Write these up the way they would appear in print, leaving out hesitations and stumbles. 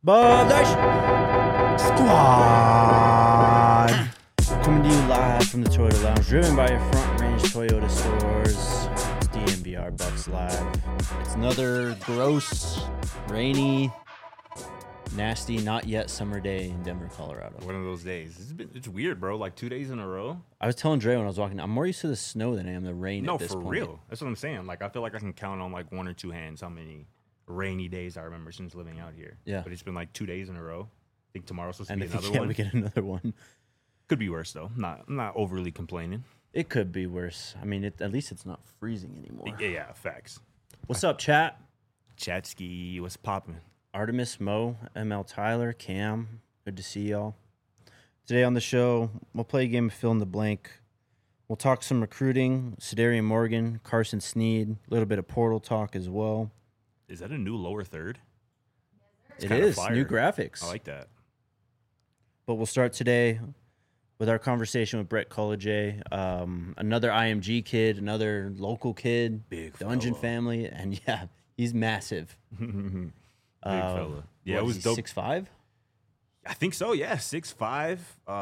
Badash Squad! Coming to you live from the Toyota Lounge, driven by your Front Range Toyota stores. It's DNVR Bucks Live. It's another gross, rainy, nasty, not yet summer day in Denver, Colorado. One of those days. It's weird, bro. Like 2 days in a row. I was telling Dre when I was walking, I'm more used to the snow than I am the rain at this point. No, for real. That's what I'm saying. Like, I feel like I can count on like one or two hands how many rainy days I remember since living out here. Yeah. But it's been like 2 days in a row. I think tomorrow's supposed to be And another if one. we get another one. Could be worse, though. I'm not overly complaining. It could be worse. I mean, at least it's not freezing anymore. Yeah, facts. What's up, chat? Chatsky, what's popping? Artemis, Mo, ML Tyler, Cam, good to see y'all. Today on the show, we'll play a game of fill in the blank. We'll talk some recruiting, Sedarian Morgan, Carson Sneed, a little bit of portal talk as well. Is that a new lower third? It is, new graphics. I like that. But we'll start today with our conversation with Brett College, another IMG kid, another local kid, Big Dungeon fella. family, and yeah, he's massive. Big fella. Yeah, What, it was is dope. he 6'5"? I think so, yeah. 6'5",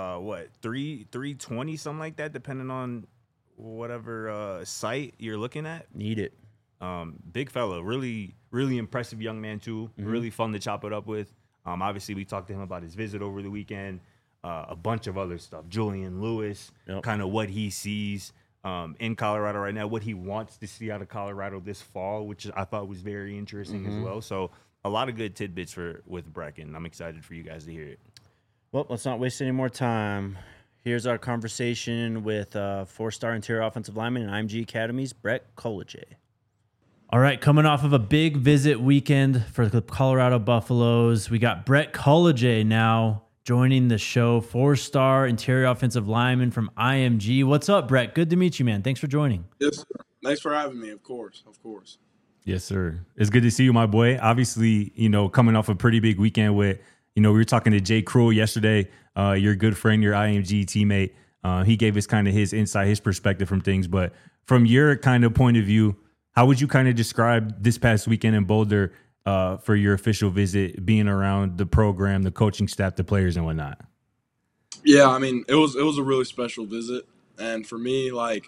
320, something like that, depending on whatever site you're looking at. Need it. Big fella, really, really impressive young man too. Really fun to chop it up with. Obviously, we talked to him about his visit over the weekend, a bunch of other stuff. Julian Lewis, kind of what he sees in Colorado right now, what he wants to see out of Colorado this fall, which I thought was very interesting as well. So a lot of good tidbits with Brecken. I'm excited for you guys to hear it. Well, let's not waste any more time. Here's our conversation with four-star interior offensive lineman and IMG Academy's Brett College. All right, coming off of a big visit weekend for the Colorado Buffaloes, we got Brett College now joining the show, four-star interior offensive lineman from IMG. What's up, Brett? Good to meet you, man. Thanks for joining. Yes, sir. Thanks for having me, of course. Yes, sir. It's good to see you, my boy. Obviously, coming off a pretty big weekend with, we were talking to Jay Cruel yesterday, your good friend, your IMG teammate. He gave us kind of his insight, his perspective from things. But from your kind of point of view, how would you kind of describe this past weekend in Boulder for your official visit, being around the program, the coaching staff, the players, and whatnot? Yeah, I mean, it was a really special visit, and for me, like,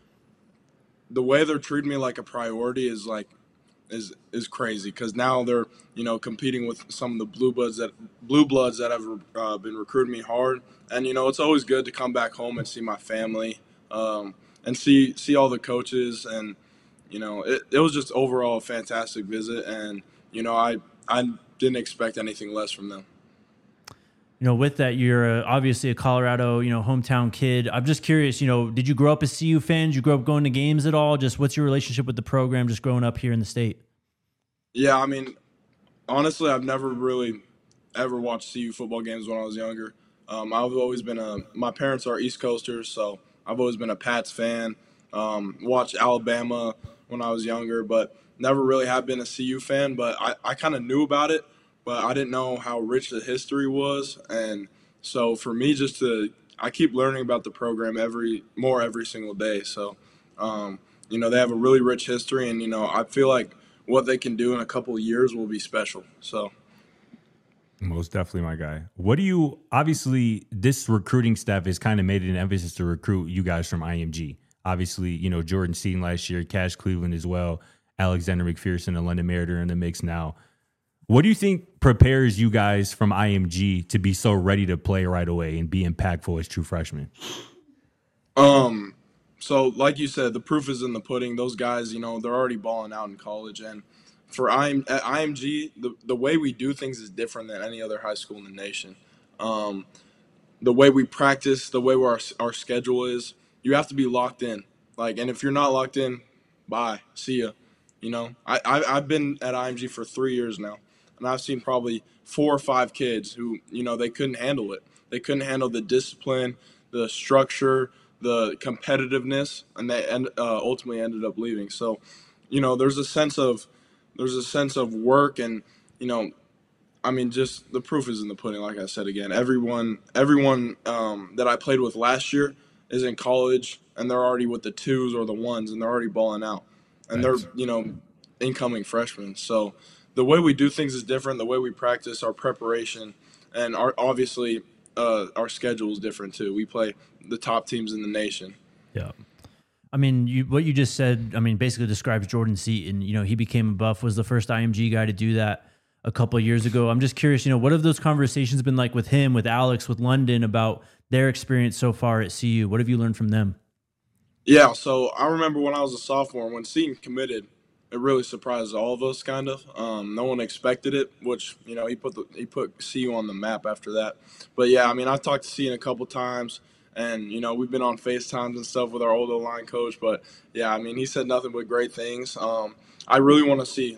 the way they're treating me like a priority is crazy, because now they're competing with some of the blue bloods that have been recruiting me hard, and it's always good to come back home and see my family, and see all the coaches, and it was just overall a fantastic visit, and I didn't expect anything less from them. With that, you're obviously a Colorado, hometown kid. I'm just curious, did you grow up as CU fan? Did you grow up going to games at all? Just what's your relationship with the program just growing up here in the state? Yeah, I mean, honestly, I've never really ever watched CU football games when I was younger. I've always been my parents are East Coasters, so I've always been a Pats fan. Watched Alabama when I was younger, but never really have been a CU fan. But I kind of knew about it, but I didn't know how rich the history was. And so for me, I keep learning about the program every single day. So, they have a really rich history, and, I feel like what they can do in a couple of years will be special. So. Most definitely, my guy. Obviously, this recruiting staff has kind of made it an emphasis to recruit you guys from IMG. Obviously, Jordan Seaton last year, Cash Cleveland as well, Alexander McPherson and London Meritor in the mix now. What do you think prepares you guys from IMG to be so ready to play right away and be impactful as true freshmen? So like you said, the proof is in the pudding. Those guys, they're already balling out in college. And for at IMG, the way we do things is different than any other high school in the nation. The way we practice, the way our schedule is, you have to be locked in. And if you're not locked in, bye, see ya. I've been at IMG for 3 years now, and I've seen probably 4 or 5 kids who, they couldn't handle it. They couldn't handle the discipline, the structure, the competitiveness, and they ultimately ended up leaving. So, there's a sense of work, and I mean, just the proof is in the pudding. Like I said again, everyone that I played with last year is in college, and they're already with the 2s or the 1s, and they're already balling out, and they're incoming freshmen. So the way we do things is different. The way we practice, our preparation, and obviously our schedule is different too. We play the top teams in the nation. Yeah. I mean, what you just said, I mean, basically describes Jordan Seaton. You know, he became a Buff, was the first IMG guy to do that a couple of years ago. I'm just curious, you know, what have those conversations been like with him, with Alex, with London about their experience so far at CU? What have you learned from them? Yeah, so I remember when I was a sophomore, when Seaton committed, it really surprised all of us, kind of. No one expected it, which he put CU on the map after that. But yeah, I mean, I've talked to Seaton a couple times, and we've been on FaceTimes and stuff with our old line coach. But yeah, I mean, he said nothing but great things. I really want to see,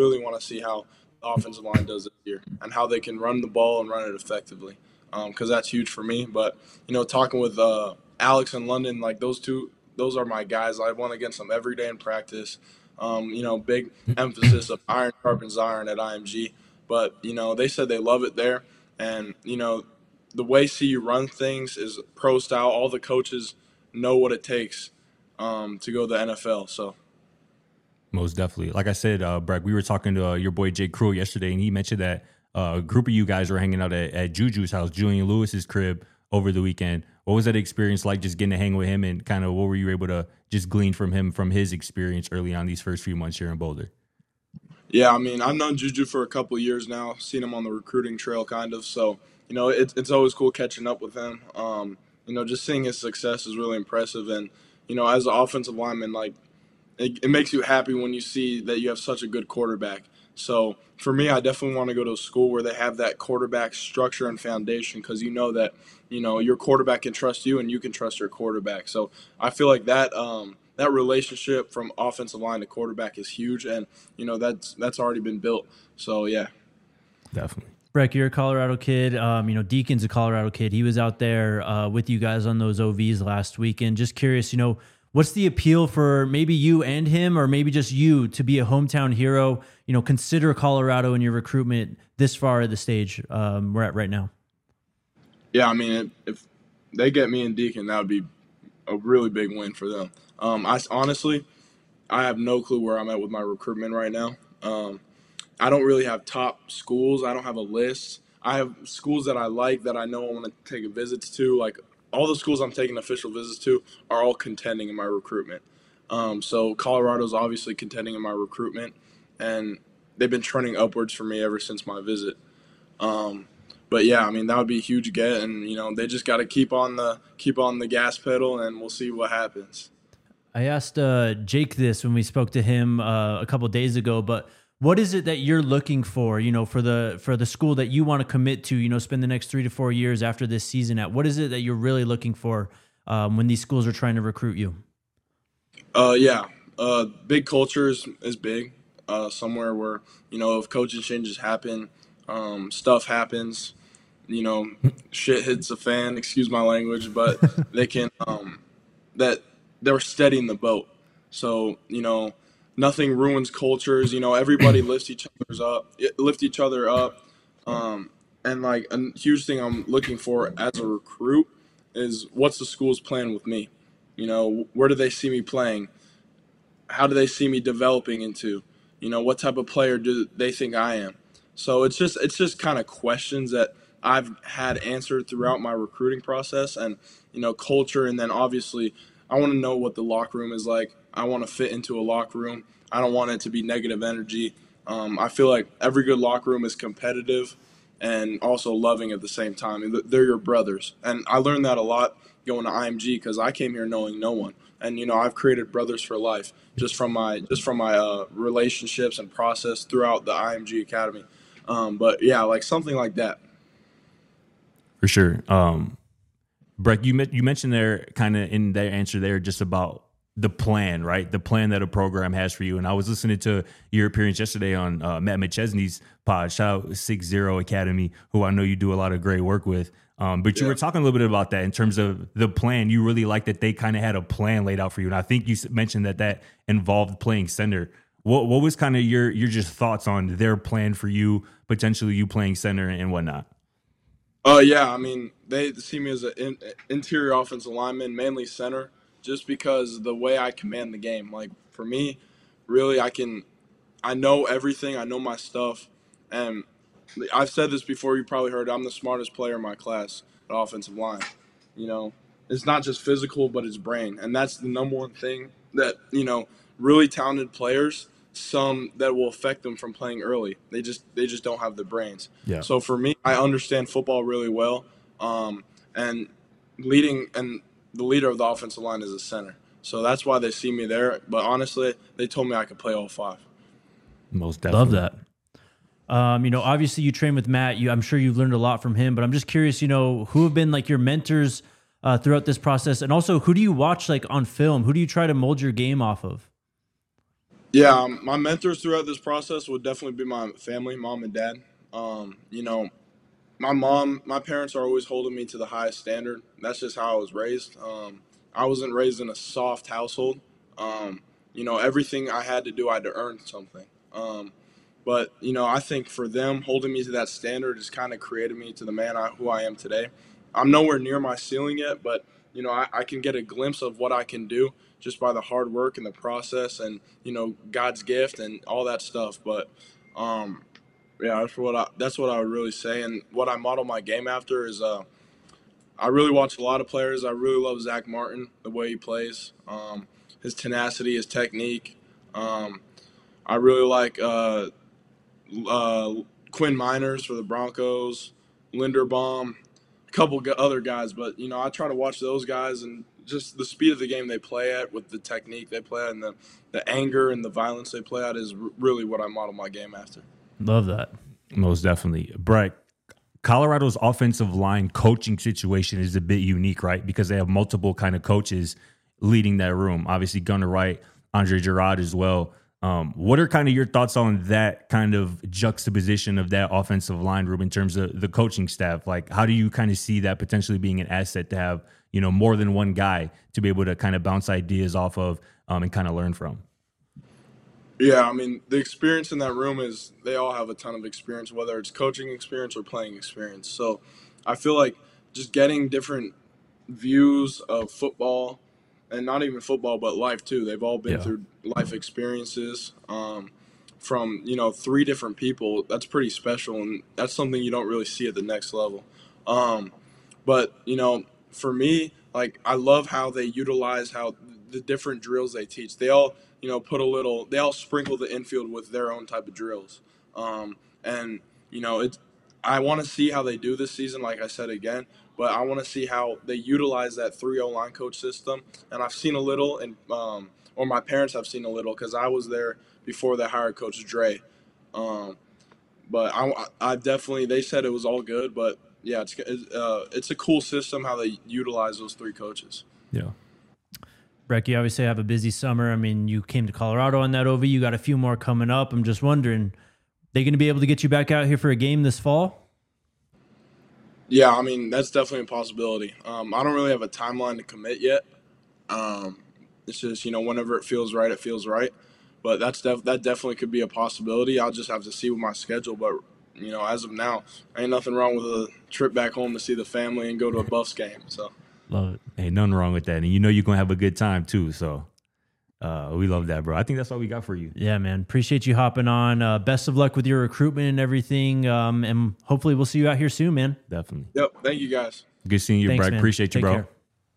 how the offensive line does this year and how they can run the ball and run it effectively, because that's huge for me. But talking with Alex and London, like those are my guys. I won against them every day in practice. Big emphasis of iron sharpens iron at IMG. But, they said they love it there. And, the way CU runs things is pro style. All the coaches know what it takes to go to the NFL. So. Most definitely. Like I said, Brett, we were talking to your boy Jay Cruel yesterday, and he mentioned that a group of you guys were hanging out at Juju's house, Julian Lewis's crib, over the weekend. What was that experience like, just getting to hang with him, and kind of what were you able to just glean from him, from his experience early on these first few months here in Boulder? Yeah, I mean, I've known Juju for a couple of years now, seen him on the recruiting trail kind of. So, it's always cool catching up with him. Just seeing his success is really impressive. And, as an offensive lineman, like, it makes you happy when you see that you have such a good quarterback. So for me, I definitely want to go to a school where they have that quarterback structure and foundation, because that your quarterback can trust you and you can trust your quarterback. So I feel like that that relationship from offensive line to quarterback is huge, and that's already been built. So yeah, definitely. Breck, you're a Colorado kid. Deacon's a Colorado kid. He was out there with you guys on those OVs last weekend. Just curious, what's the appeal for maybe you and him, or maybe just you, to be a hometown hero? Consider Colorado in your recruitment this far at the stage we're at right now. Yeah, I mean, if they get me and Deacon, that would be a really big win for them. I have no clue where I'm at with my recruitment right now. I don't really have top schools. I don't have a list. I have schools that I like, that I know I want to take visits to. Like, all the schools I'm taking official visits to are all contending in my recruitment. So Colorado's obviously contending in my recruitment, and they've been trending upwards for me ever since my visit. But yeah, I mean, that would be a huge get, and they just got to keep on the gas pedal, and we'll see what happens. I asked Jake this when we spoke to him a couple of days ago, but what is it that you're looking for, for the school that you want to commit to, spend the next 3 to 4 years after this season at? What is it that you're really looking for when these schools are trying to recruit you? Big culture is big. Somewhere where, if coaching changes happen, stuff happens, shit hits the fan, excuse my language, but they can, that they're steadying the boat. So, nothing ruins cultures. Everybody lifts each other up. And like a huge thing I'm looking for as a recruit is, what's the school's plan with me? Where do they see me playing? How do they see me developing into? What type of player do they think I am? So it's just kind of questions that I've had answered throughout my recruiting process, and culture, and then obviously I want to know what the locker room is like. I want to fit into a locker room. I don't want it to be negative energy. I feel like every good locker room is competitive and also loving at the same time. They're your brothers. And I learned that a lot going to IMG, because I came here knowing no one. And, I've created brothers for life just from my relationships and process throughout the IMG Academy. But, yeah, like something like that. For sure. Breck, you mentioned there kind of in their answer there just about the plan, right? The plan that a program has for you. And I was listening to your appearance yesterday on Matt McChesney's pod. Shout out 60 Academy, who I know you do a lot of great work with. But you were talking a little bit about that in terms of the plan. You really like that they kind of had a plan laid out for you. And I think you mentioned that involved playing center. What was kind of your just thoughts on their plan for you, potentially you playing center and whatnot? Yeah, I mean, they see me as an interior offensive lineman, mainly center, just because the way I command the game. Like, for me, really, I can I know everything. I know my stuff, and I've said this before. You probably heard. I'm the smartest player in my class at offensive line. You know, it's not just physical, but it's brain, and that's the number one thing that really talented players. Some that will affect them from playing early. They just don't have the brains. Yeah. So for me, I understand football really well, and the leader of the offensive line is a center. So that's why they see me there. But honestly, they told me I could play all five. Most definitely. Love that. Obviously you train with Matt. I'm sure you've learned a lot from him, but I'm just curious, who have been like your mentors throughout this process? And also, who do you watch like on film? Who do you try to mold your game off of? Yeah, my mentors throughout this process would definitely be my family, mom and dad. My parents are always holding me to the highest standard. That's just how I was raised. I wasn't raised in a soft household. Everything I had to do, I had to earn something. But I think for them, holding me to that standard has kind of created me to the man who I am today. I'm nowhere near my ceiling yet, but I can get a glimpse of what I can do just by the hard work and the process and God's gift and all that stuff. But yeah, that's what I would really say. And what I model my game after is I really watch a lot of players. I really love Zach Martin, the way he plays, his tenacity, his technique. I really like Quinn Miners for the Broncos, Linderbaum, a couple other guys. But I try to watch those guys and just the speed of the game they play at, with the technique they play at, and the anger and the violence they play at is really what I model my game after. Love that. Most definitely. Brett, Colorado's offensive line coaching situation is a bit unique, right? Because they have multiple kind of coaches leading that room. Obviously, Gunnar Wright, Andre Gerard as well. What are kind of your thoughts on that kind of juxtaposition of that offensive line room in terms of the coaching staff? Like, how do you kind of see that potentially being an asset to have, more than one guy to be able to kind of bounce ideas off of and kind of learn from? Yeah, I mean, the experience in that room is they all have a ton of experience, whether it's coaching experience or playing experience. So I feel like just getting different views of football, and not even football, but life too. They've all been through life experiences from, three different people. That's pretty special, and that's something you don't really see at the next level. But, for me, like, I love how they utilize how the different drills they teach. They all they all sprinkle the infield with their own type of drills. And, I want to see how they do this season, like I said again, but I want to see how they utilize that 3-0 line coach system. And I've seen a little, and or my parents have seen a little, because I was there before they hired Coach Dre. But I definitely, they said it was all good, but yeah, it's a cool system how they utilize those three coaches. Yeah. Breck, you obviously have a busy summer. I mean, you came to Colorado on that OV. You got a few more coming up. I'm just wondering, they going to be able to get you back out here for a game this fall? Yeah, I mean, that's definitely a possibility. I don't really have a timeline to commit yet. It's just, whenever it feels right, it feels right. But that definitely could be a possibility. I'll just have to see with my schedule. But, as of now, ain't nothing wrong with a trip back home to see the family and go to a Buffs game. So love it. Ain't nothing wrong with that. And you're going to have a good time too. So we love that, bro. I think that's all we got for you. Yeah, man. Appreciate you hopping on. Best of luck with your recruitment and everything. And hopefully we'll see you out here soon, man. Definitely. Yep. Thank you, guys. Good seeing you, Thanks, Brett. man. Appreciate you, Take bro. care.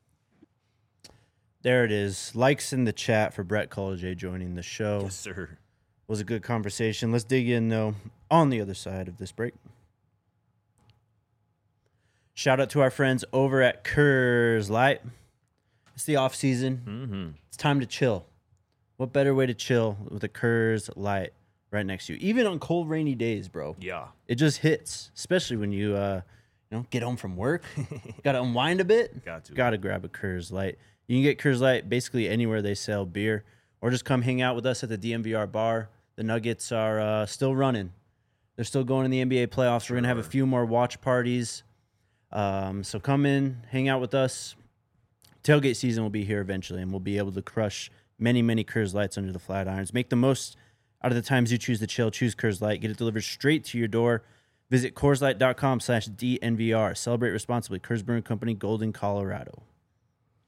There it is. Likes in the chat for Brett College joining the show. Yes, sir. Was a good conversation. Let's dig in, though, on the other side of this break. Shout out to our friends over at Coors Light. It's the off season. Mm-hmm. It's time to chill. What better way to chill with a Coors Light right next to you? Even on cold, rainy days, bro. Yeah. It just hits, especially when you get home from work. Got to unwind a bit. Got to grab a Coors Light. You can get Coors Light basically anywhere they sell beer, or just come hang out with us at the DMVR bar. The Nuggets are still running. They're still going in the NBA playoffs. We're going to have a few more watch parties. So come in, hang out with us. Tailgate season will be here eventually, and we'll be able to crush many, many Coors Lights under the flat irons. Make the most out of the times you choose to chill. Choose Coors Light. Get it delivered straight to your door. Visit CoorsLight.com/DNVR. Celebrate responsibly. Coors Brewing Company, Golden, Colorado.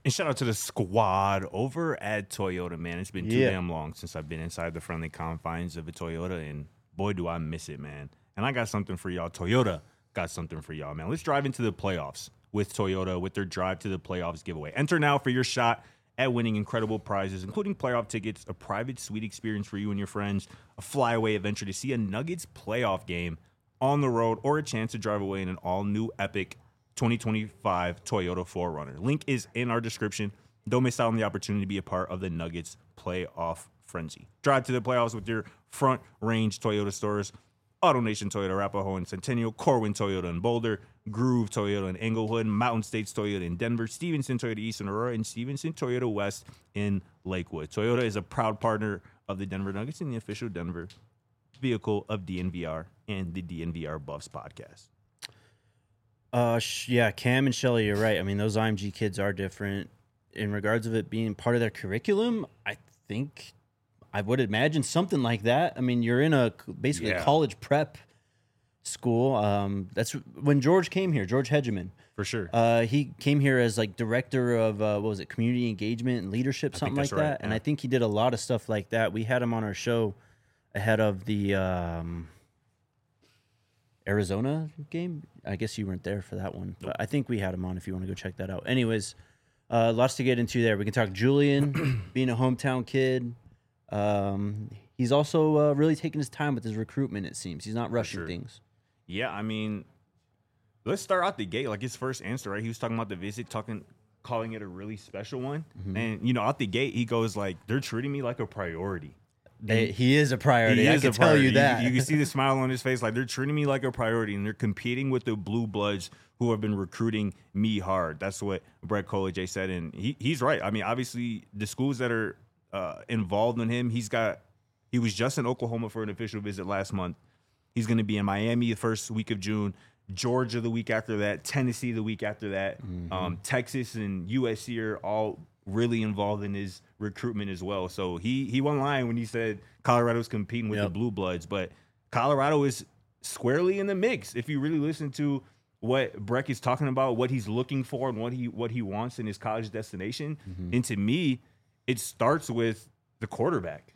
And shout out to the squad over at Toyota, man. It's been too damn long since I've been inside the friendly confines of a Toyota, and boy, do I miss it, man. And I got something for y'all. Toyota got something for y'all, man. Let's drive into the playoffs with Toyota with their Drive to the Playoffs giveaway. Enter now for your shot at winning incredible prizes, including playoff tickets, a private suite experience for you and your friends, a flyaway adventure to see a Nuggets playoff game on the road, or a chance to drive away in an all-new epic 2025 Toyota 4Runner. Link is in our description. Don't miss out on the opportunity to be a part of the Nuggets playoff frenzy. Drive to the playoffs with your Front Range Toyota stores, AutoNation Toyota Arapahoe and Centennial, Corwin Toyota in Boulder, Groove Toyota in Englewood, Mountain States Toyota in Denver, Stevenson Toyota East in Aurora, and Stevenson Toyota West in Lakewood. Toyota is a proud partner of the Denver Nuggets and the official Denver vehicle of DNVR and the DNVR Buffs podcast. Yeah, Cam and Shelly, you're right. I mean, those IMG kids are different. In regards of it being part of their curriculum, I think I would imagine something like that. I mean, you're in a basically a college prep school. That's when George came here, George Hegeman. For sure. He came here as like director of, what was it, community engagement and leadership, something like that. Right, and I think he did a lot of stuff like that. We had him on our show ahead of the Arizona game. I guess you weren't there for that one, but I think we had him on if you want to go check that out. Anyways, lots to get into there. We can talk Julian being a hometown kid. He's also really taking his time with his recruitment, it seems. He's not rushing things. Yeah, I mean, let's start out the gate. Like his first answer, right? He was talking about the visit, calling it a really special one. Mm-hmm. And, you know, out the gate, he goes like, they're treating me like a priority. He is a priority. I can tell you that. You can see the smile on his face. Like, they're treating me like a priority, and they're competing with the Blue Bloods who have been recruiting me hard. That's what Brett Collier said, and he's right. I mean, obviously, the schools that are involved in him, he was just in Oklahoma for an official visit last month. He's going to be in Miami the first week of June, Georgia the week after that, Tennessee the week after that. Texas and USC are all really involved in his recruitment as well. So he won line when he said Colorado's competing with the Blue Bloods, but Colorado is squarely in the mix. If you really listen to what Breck is talking about, what he's looking for and what he wants in his college destination, and to me, it starts with the quarterback.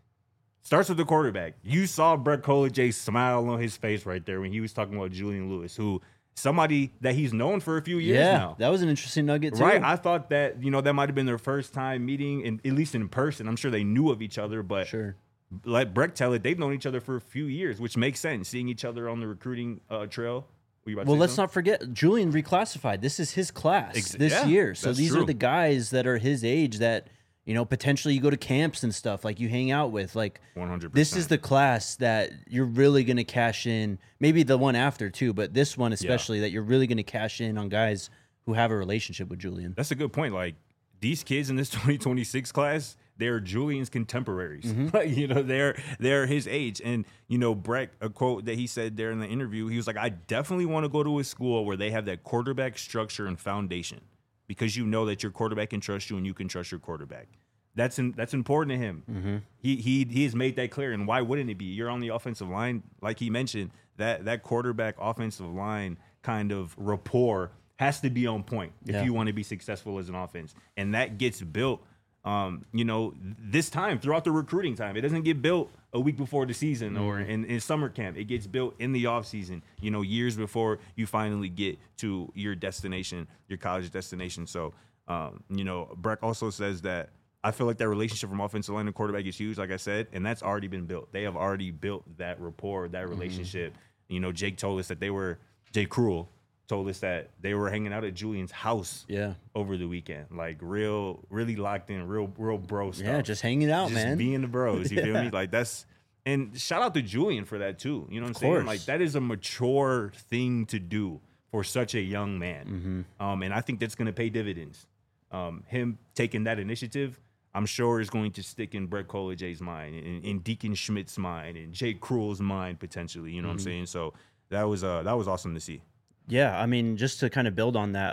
You saw Brett Collier smile on his face right there when he was talking about Julian Lewis, who somebody that he's known for a few years now. That was an interesting nugget too. Right. I thought that, that might have been their first time meeting, and at least in person. I'm sure they knew of each other, but let Breck tell it, they've known each other for a few years, which makes sense, seeing each other on the recruiting trail. Well, let's not forget, Julian reclassified. This is his class this year. So these are the guys that are his age that, potentially you go to camps and stuff, like you hang out with. Like 100%. This is the class that you're really going to cash in. Maybe the one after too, but this one especially, that you're really going to cash in on guys who have a relationship with Julian. That's a good point. Like these kids in this 2026 class, they're Julian's contemporaries. They're his age. And, Breck, a quote that he said there in the interview, he was like, I definitely want to go to a school where they have that quarterback structure and foundation, because you know that your quarterback can trust you and you can trust your quarterback. That's important to him. He has made that clear. And why wouldn't it be? You're on the offensive line, like he mentioned, that quarterback offensive line kind of rapport has to be on point if you want to be successful as an offense. And that gets built, this time throughout the recruiting time. It doesn't get built a week before the season or in summer camp. It gets built in the off season, years before you finally get to your destination, your college destination. So, Breck also says that I feel like that relationship from offensive line and quarterback is huge, like I said, and that's already been built. They have already built that rapport, that relationship. Jake told us that Jake Cruel told us that they were hanging out at Julian's house over the weekend. Like really locked in, real bro stuff. Yeah, just hanging out, man. Just being the bros, you feel me? Like and shout out to Julian for that too. You know what I'm saying? Like that is a mature thing to do for such a young man. And I think that's going to pay dividends. Him taking that initiative, I'm sure is going to stick in Brett Collier's mind, in Deacon Schmidt's mind, and Jake Cruel's mind potentially. You know what I'm saying? So that was awesome to see. Yeah, I mean, just to kind of build on that,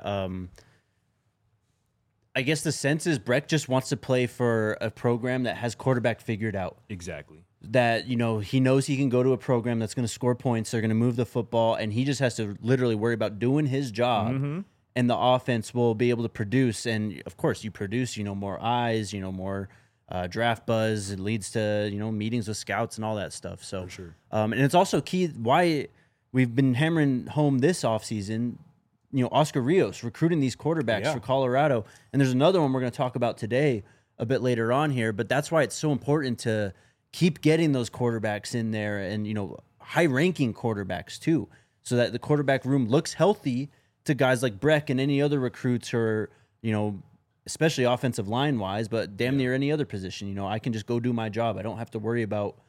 I guess the sense is Breck just wants to play for a program that has quarterback figured out. Exactly. That, he knows he can go to a program that's going to score points, they're going to move the football, and he just has to literally worry about doing his job and the offense will be able to produce. And of course, you produce, more eyes, more draft buzz. It leads to, meetings with scouts and all that stuff. So, For sure. And it's also key why we've been hammering home this offseason, Oscar Rios recruiting these quarterbacks for Colorado. And there's another one we're going to talk about today a bit later on here, but that's why it's so important to keep getting those quarterbacks in there and, high-ranking quarterbacks too, so that the quarterback room looks healthy to guys like Breck and any other recruits who are, especially offensive line-wise, but damn near any other position. I can just go do my job. I don't have to worry about,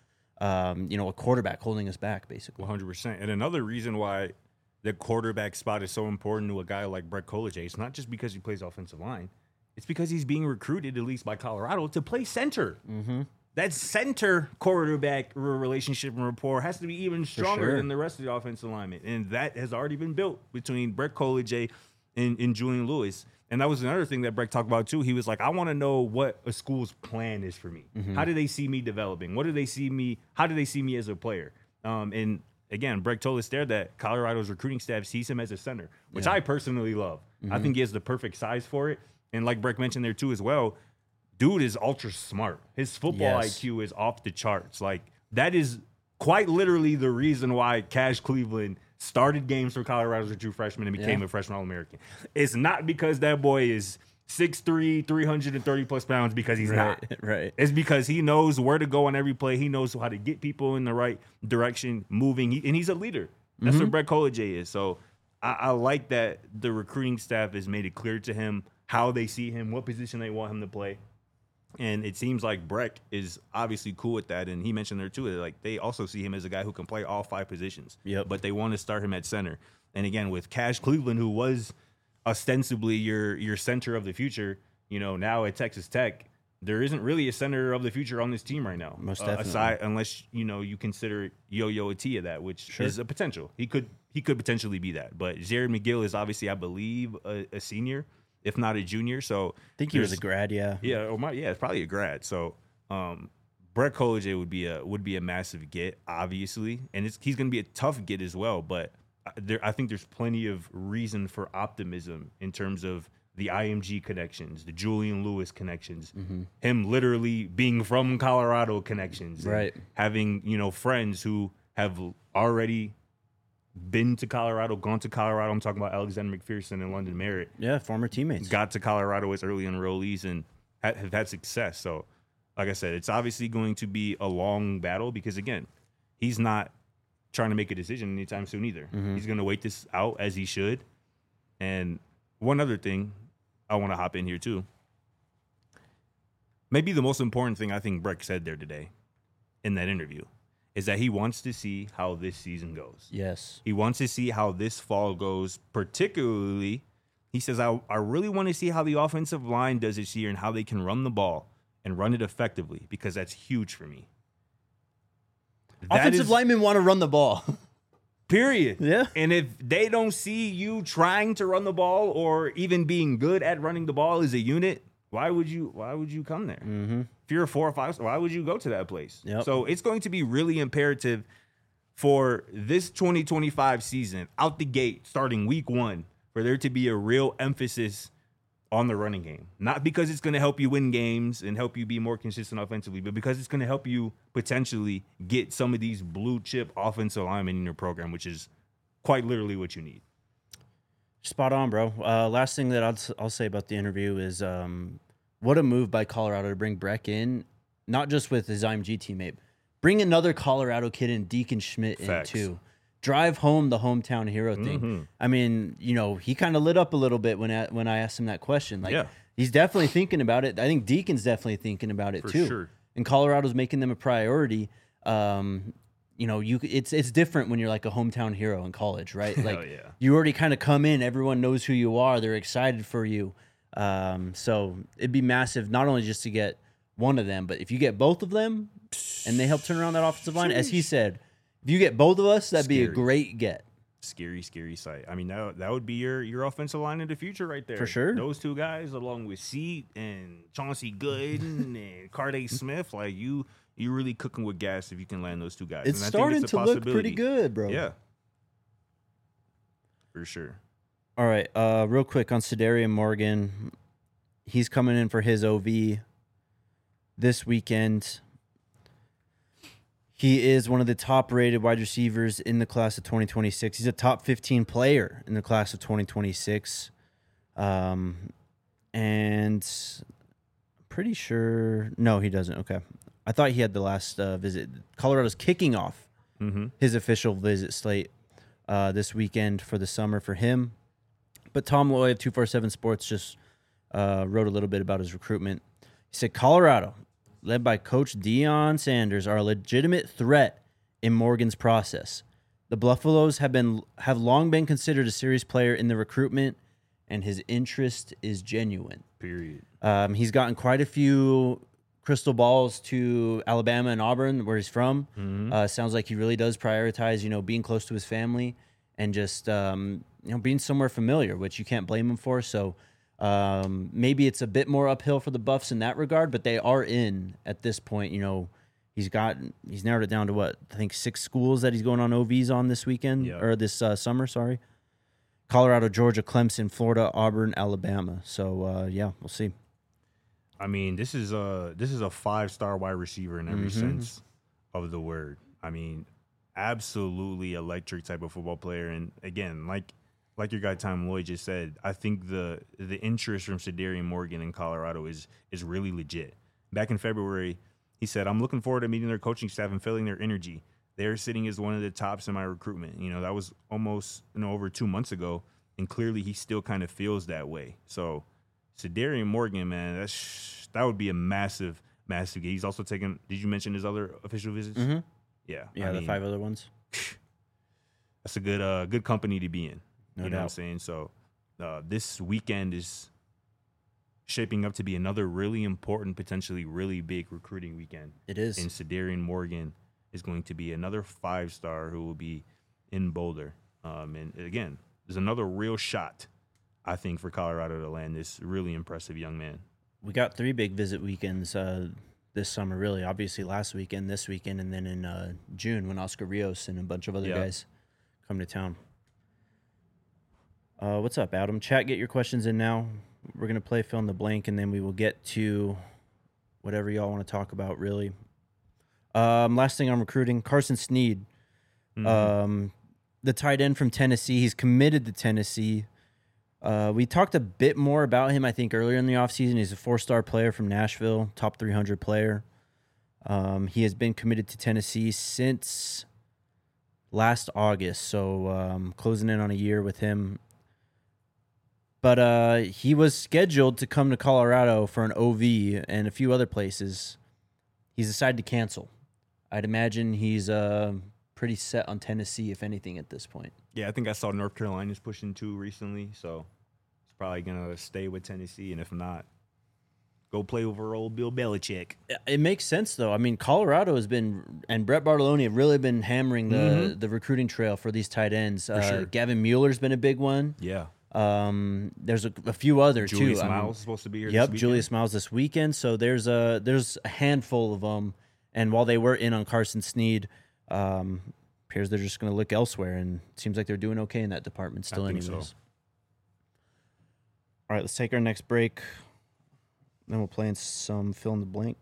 a quarterback holding us back, basically. 100%. And another reason why the quarterback spot is so important to a guy like Brett Kolejay, it's not just because he plays offensive line. It's because he's being recruited, at least by Colorado, to play center. Mm-hmm. That center quarterback relationship and rapport has to be even stronger than the rest of the offensive alignment. And that has already been built between Brett Kolejay and Julian Lewis. And that was another thing that Breck talked about, too. He was like, I want to know what a school's plan is for me. Mm-hmm. How do they see me developing? How do they see me as a player? And again, Breck told us there that Colorado's recruiting staff sees him as a center, which I personally love. Mm-hmm. I think he has the perfect size for it. And like Breck mentioned there, too, as well, dude is ultra smart. His football IQ is off the charts. Like, that is quite literally the reason why Cash Cleveland started games for Colorado as a true freshman and became a freshman All-American. It's not because that boy is 6'3", 330-plus pounds, because he's not. Right. It's because he knows where to go on every play. He knows how to get people in the right direction, moving. And he's a leader. That's what Brett Kolejay is. So I like that the recruiting staff has made it clear to him how they see him, what position they want him to play. And it seems like Breck is obviously cool with that. And he mentioned there, too, that like they also see him as a guy who can play all 5 positions. Yep. But they want to start him at center. And again, with Cash Cleveland, who was ostensibly your center of the future, now at Texas Tech, there isn't really a center of the future on this team right now. Most definitely. Aside, unless, you consider Yo-Yo Atia that, which is a potential. He could potentially be that. But Jared McGill is obviously, I believe, a senior, if not a junior. So I think he was a grad, yeah. Yeah, it's probably a grad. So Brett Kolejay would be a massive get, obviously, and he's going to be a tough get as well. But I think there's plenty of reason for optimism in terms of the IMG connections, the Julian Lewis connections, him literally being from Colorado connections, right? Having friends who have already been to Colorado, gone to Colorado. I'm talking about Alexander McPherson and London Merritt. Yeah, former teammates. Got to Colorado as early enrollees and have had success. So, like I said, it's obviously going to be a long battle because, again, he's not trying to make a decision anytime soon either. He's going to wait this out as he should. And one other thing I want to hop in here too. Maybe the most important thing I think Breck said there today in that interview is that he wants to see how this season goes. Yes. He wants to see how this fall goes, particularly, he says, I really want to see how the offensive line does this year and how they can run the ball and run it effectively, because that's huge for me. Offensive linemen want to run the ball. Period. Yeah. And if they don't see you trying to run the ball or even being good at running the ball as a unit, why would you come there? Mm-hmm. If you're a 4 or 5, why would you go to that place? Yep. So it's going to be really imperative for this 2025 season, out the gate, starting week 1, for there to be a real emphasis on the running game. Not because it's going to help you win games and help you be more consistent offensively, but because it's going to help you potentially get some of these blue chip offensive linemen in your program, which is quite literally what you need. Spot on, bro. Last thing that I'll say about the interview is what a move by Colorado to bring Breck in, not just with his IMG teammate. Bring another Colorado kid in, Deacon Schmidt, Facts. in too. Drive home the hometown hero thing. Mm-hmm. I mean, he kind of lit up a little bit when I asked him that question. Like, he's definitely thinking about it. I think Deacon's definitely thinking about it too. Sure. And Colorado's making them a priority. It's different when you're like a hometown hero in college, right? Like, you already kind of come in, everyone knows who you are, they're excited for you. So it'd be massive, not only just to get one of them, but if you get both of them and they help turn around that offensive line, as he said, if you get both of us, that'd be a great get. Scary sight. I mean, that would be your offensive line in the future right there. For sure. Those two guys, along with Seat and Chauncey Gooden and Carday Smith, like you really cooking with gas if you can land those two guys. It's starting to look pretty good, bro. Yeah. For sure. All right, real quick on Sedarian Morgan. He's coming in for his OV this weekend. He is one of the top-rated wide receivers in the class of 2026. He's a top 15 player in the class of 2026. And I'm pretty sure... No, he doesn't. Okay. I thought he had the last visit. Colorado's kicking off his official visit slate this weekend for the summer for him. But Tom Loy of 247 Sports just wrote a little bit about his recruitment. He said, Colorado, led by Coach Deion Sanders, are a legitimate threat in Morgan's process. The Buffaloes have long been considered a serious player in the recruitment, and his interest is genuine. Period. He's gotten quite a few crystal balls to Alabama and Auburn, where he's from. Sounds like he really does prioritize, being close to his family and just, being somewhere familiar, which you can't blame him for. So maybe it's a bit more uphill for the Buffs in that regard, but they are in at this point. He's narrowed it down to what? I think 6 schools that he's going on OVs on this weekend or this summer. Sorry, Colorado, Georgia, Clemson, Florida, Auburn, Alabama. So we'll see. I mean, this is a 5-star wide receiver in every sense of the word. I mean, absolutely electric type of football player. And again, like your guy Tom Lloyd just said, I think the interest from Sedarian Morgan in Colorado is really legit. Back in February, he said, I'm looking forward to meeting their coaching staff and feeling their energy. They're sitting as one of the tops in my recruitment. That was almost over 2 months ago, and clearly he still kind of feels that way. So Sedarian Morgan, man, that would be a massive, massive game. He's also taken. Did you mention his other official visits? Yeah, the 5 other ones. That's a good company to be in. No you know doubt. what I'm saying? So this weekend is shaping up to be another really important, potentially really big recruiting weekend. It is. And Sedarian Morgan is going to be another 5-star who will be in Boulder. And again, there's another real shot, I think, for Colorado to land this really impressive young man. We got 3 big visit weekends this summer, really. Obviously, last weekend, this weekend, and then in June when Oscar Rios and a bunch of other guys come to town. What's up, Adam? Chat, get your questions in now. We're going to play fill in the blank, and then we will get to whatever y'all want to talk about, really. Last thing on recruiting, Carson Snead, the tight end from Tennessee. He's committed to Tennessee. We talked a bit more about him, I think, earlier in the offseason. He's a 4-star player from Nashville, top 300 player. He has been committed to Tennessee since last August, so closing in on a year with him. But he was scheduled to come to Colorado for an OV and a few other places. He's decided to cancel. I'd imagine he's pretty set on Tennessee, if anything, at this point. Yeah, I think I saw North Carolina's pushing 2 recently, so he's probably going to stay with Tennessee, and if not, go play over old Bill Belichick. It makes sense, though. I mean, Colorado has been, and Brett Bartoloni have really been hammering the recruiting trail for these tight ends. Sure. Gavin Mueller's been a big one. Yeah. There's a few other Julius too. Miles is supposed to be here. Yep, this weekend. Julius Miles this weekend. So there's a handful of them, and while they were in on Carson Snead, appears they're just going to look elsewhere, and it seems like they're doing okay in that department still. I think Anyways. so. All right, let's take our next break. Then we'll play in some fill in the blank.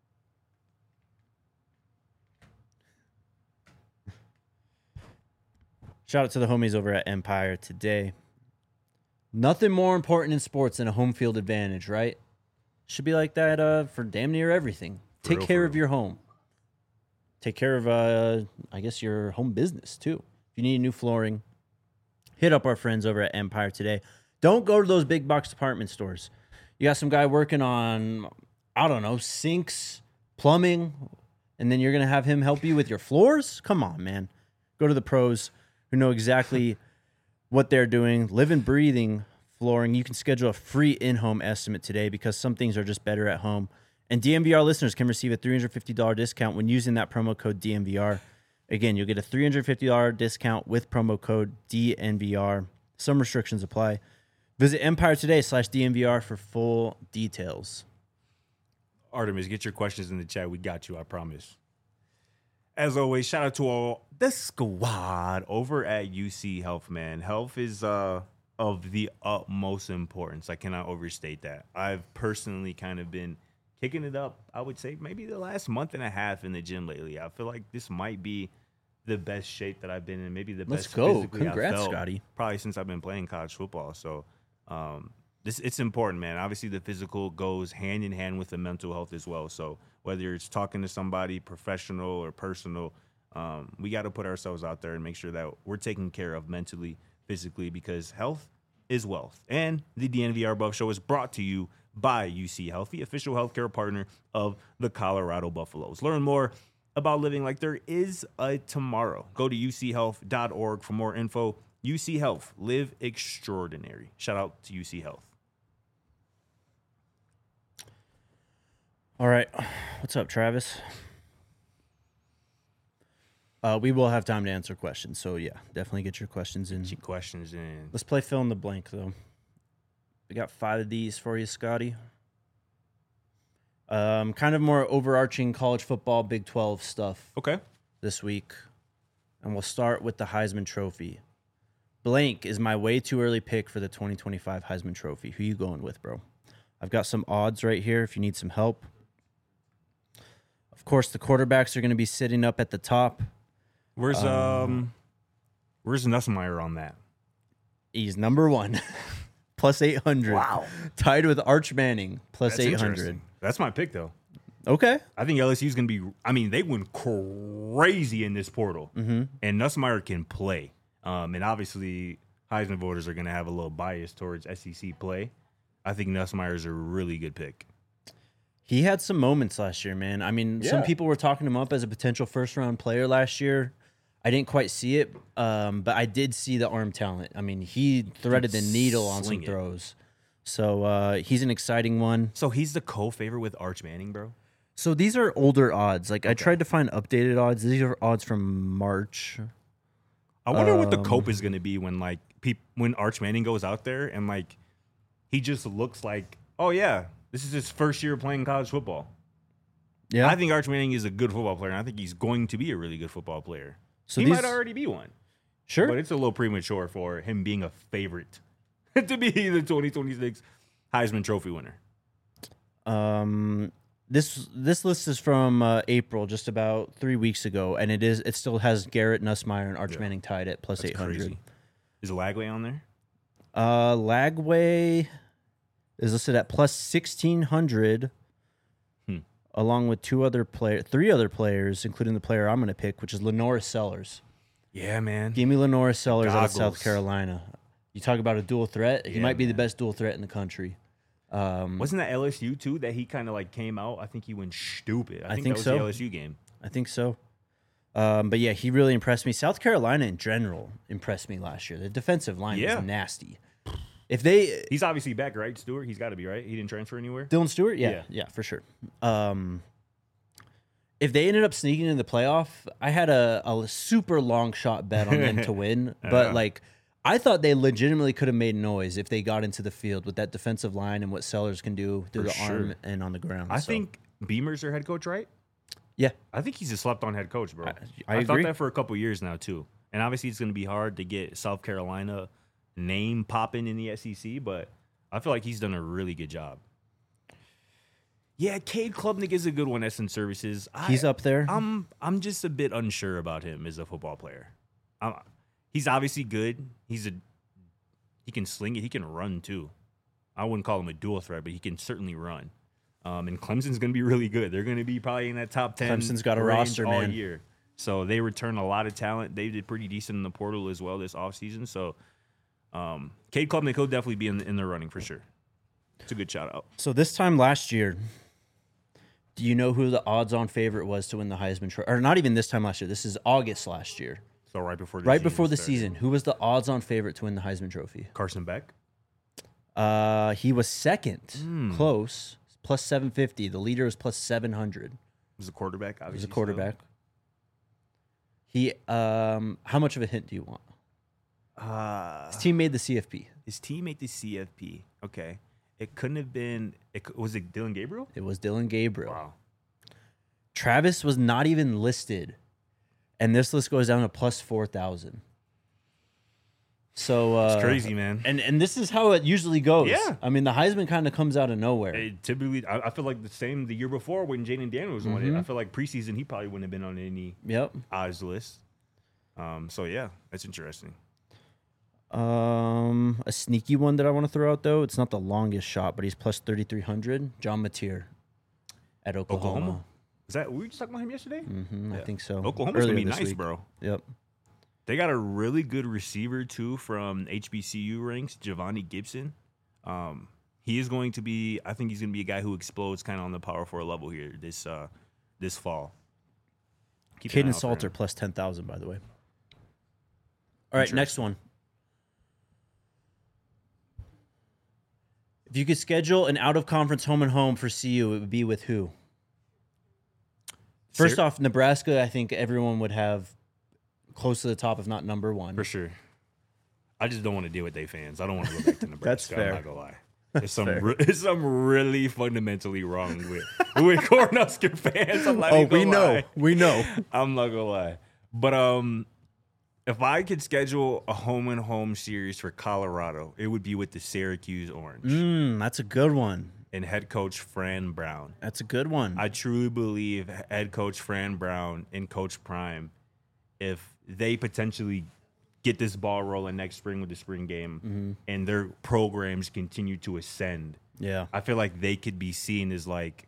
Shout out to the homies over at Empire today. Nothing more important in sports than a home field advantage, right? Should be like that for damn near everything. Take care of your home. Take care of, I guess, your home business, too. If you need new flooring, hit up our friends over at Empire today. Don't go to those big box department stores. You got some guy working on, I don't know, sinks, plumbing, and then you're going to have him help you with your floors? Come on, man. Go to the pros who know exactly what they're doing. Live and breathing flooring. You can schedule a free in-home estimate today because some things are just better at home. And DMVR listeners can receive a $350 discount when using that promo code DMVR. Again, you'll get a $350 discount with promo code DNVR. Some restrictions apply. Visit EmpireToday.com/DNVR for full details. Artemis, get your questions in the chat. We got you, I promise. As always, shout out to all the squad over at UC Health, man. Health is of the utmost importance. I cannot overstate that. I've personally kind of been kicking it up, I would say, maybe the last month and a half in the gym lately. I feel like this might be the best shape that I've been in, maybe the Let's best go. physically I've Congrats, felt Scotty. probably since I've been playing college football. So it's important, man. Obviously, the physical goes hand in hand with the mental health as well. So whether it's talking to somebody professional or personal, we got to put ourselves out there and make sure that we're taken care of mentally, physically, because health is wealth. And the DNVR Buff Show is brought to you by UC Health, the official healthcare partner of the Colorado Buffaloes. Learn more about living like there is a tomorrow. Go to uchealth.org for more info. UC Health, live extraordinary. Shout out to UC Health. All right. What's up, Travis? We will have time to answer questions. So, yeah, definitely get your questions in. Get questions in. Let's play fill in the blank, though. We got 5 of these for you, Scotty. Kind of more overarching college football, Big 12 stuff Okay. this week. And we'll start with the Heisman Trophy. Blank is my way too early pick for the 2025 Heisman Trophy. Who you going with, bro? I've got some odds right here if you need some help. Of course, the quarterbacks are going to be sitting up at the top. Where's Nussmeier on that? He's number 1, plus 800. Wow. Tied with Arch Manning, plus That's 800. interesting. That's my pick, though. Okay. I think LSU's going to be, I mean, they went crazy in this portal. Mm-hmm. And Nussmeier can play. And obviously, Heisman voters are going to have a little bias towards SEC play. I think Nussmeier's a really good pick. He had some moments last year, man. I mean, some people were talking him up as a potential first-round player last year. I didn't quite see it, but I did see the arm talent. I mean, he threaded the needle on some throws. So he's an exciting one. So he's the co-favorite with Arch Manning, bro? So these are older odds. Like, I tried to find updated odds. These are odds from March. I wonder what the cope is going to be when, like, when Arch Manning goes out there and, like, he just looks like, oh, yeah, this is his first year playing college football. Yeah. I think Arch Manning is a good football player, and I think he's going to be a really good football player. So he these- might already be one. Sure. But it's a little premature for him being a favorite to be the 2026 Heisman Trophy winner. This list is from April, just about 3 weeks ago, and it still has Garrett Nussmeier and Arch Manning tied at plus That's 800. crazy. Is Lagway on there? Lagway is listed at plus 1,600, along with three other players, including the player I'm going to pick, which is Lenora Sellers. Yeah, man. Give me Lenora Sellers out of South Goggles. Carolina. You talk about a dual threat. He Yeah, might be the man. best dual threat in the country. Wasn't that LSU too that he kind of like came out? I think he went stupid. I think that was so. the LSU game. I think so. But yeah, he really impressed me. South Carolina in general impressed me last year. The defensive line Yeah. was nasty. If they He's obviously back, right? Stewart, he's got to be right. He didn't transfer anywhere. Dylan Stewart, yeah, for sure. If they ended up sneaking in the playoff, I had a super long shot bet on them to win. But like, I thought they legitimately could have made noise if they got into the field with that defensive line and what Sellers can do through the arm and on the ground. I So, think Beamer's their head coach, right? yeah, I think he's a slept-on head coach, bro. I thought agree. that for a couple years now too. And obviously, it's going to be hard to get South Carolina name popping in the SEC, but I feel like he's done a really good job. Yeah, Cade Klubnik is a good one. Essence Services. he's up there. I'm just a bit unsure about him as a football player. He's obviously good. He can sling it. He can run too. I wouldn't call him a dual threat, but he can certainly run. And Clemson's going to be really good. They're going to be probably in that top 10. Clemson's got a range roster, all man. year. So they return a lot of talent. They did pretty decent in the portal as well this offseason. So Cade Klubnik will definitely be in the running for sure. It's a good shout out. So this time last year, do you know who the odds-on favorite was to win the Heisman Trophy? Or not even this time last year. This is August last year. So right before the started. season, who was the odds-on favorite to win the Heisman Trophy? Carson Beck. He was second, close, plus 750. The leader was plus 700. Was a quarterback, obviously. He was a quarterback. He, how much of a hint do you want? His team made the CFP. His team made the CFP. Okay. It couldn't have been. Was it Dylan Gabriel? It was Dylan Gabriel. Wow. Travis was not even listed, and this list goes down to plus 4,000. So It's crazy, man. And this is how it usually goes. Yeah. I mean, the Heisman kind of comes out of nowhere. Typically, I feel like the same the year before when Jaden Daniels won it. I feel like preseason he probably wouldn't have been on any Yep. odds list. So yeah, that's interesting. A sneaky one that I want to throw out though. It's not the longest shot, but he's plus 3,300. John Mateer at Oklahoma. Is that we were just talking about him yesterday? I think so. Oklahoma's gonna Earlier be this nice, week. bro. Yep. They got a really good receiver too from HBCU ranks, Giovanni Gibson. He is going to be. I think he's going to be a guy who explodes kind of on the Power 4 level here this fall. Keep an eye Caden out for Salter him. plus 10,000, by the way. All right, next one. If you could schedule an out-of-conference home and home for CU, it would be with who? First off, Nebraska, I think everyone would have close to the top, if not number one. For sure. I just don't want to deal with they fans. I don't want to go back to Nebraska. That's fair. I'm not gonna lie. There's some really fundamentally wrong with Cornhusker fans. I'm not even gonna lie. We know. I'm not gonna lie. But if I could schedule a home and home series for Colorado, it would be with the Syracuse Orange That's a good one. and head coach Fran Brown. That's a good one. I truly believe head coach Fran Brown and Coach Prime, if they potentially get this ball rolling next spring with the spring game and their programs continue to ascend, yeah. I feel like they could be seen as like,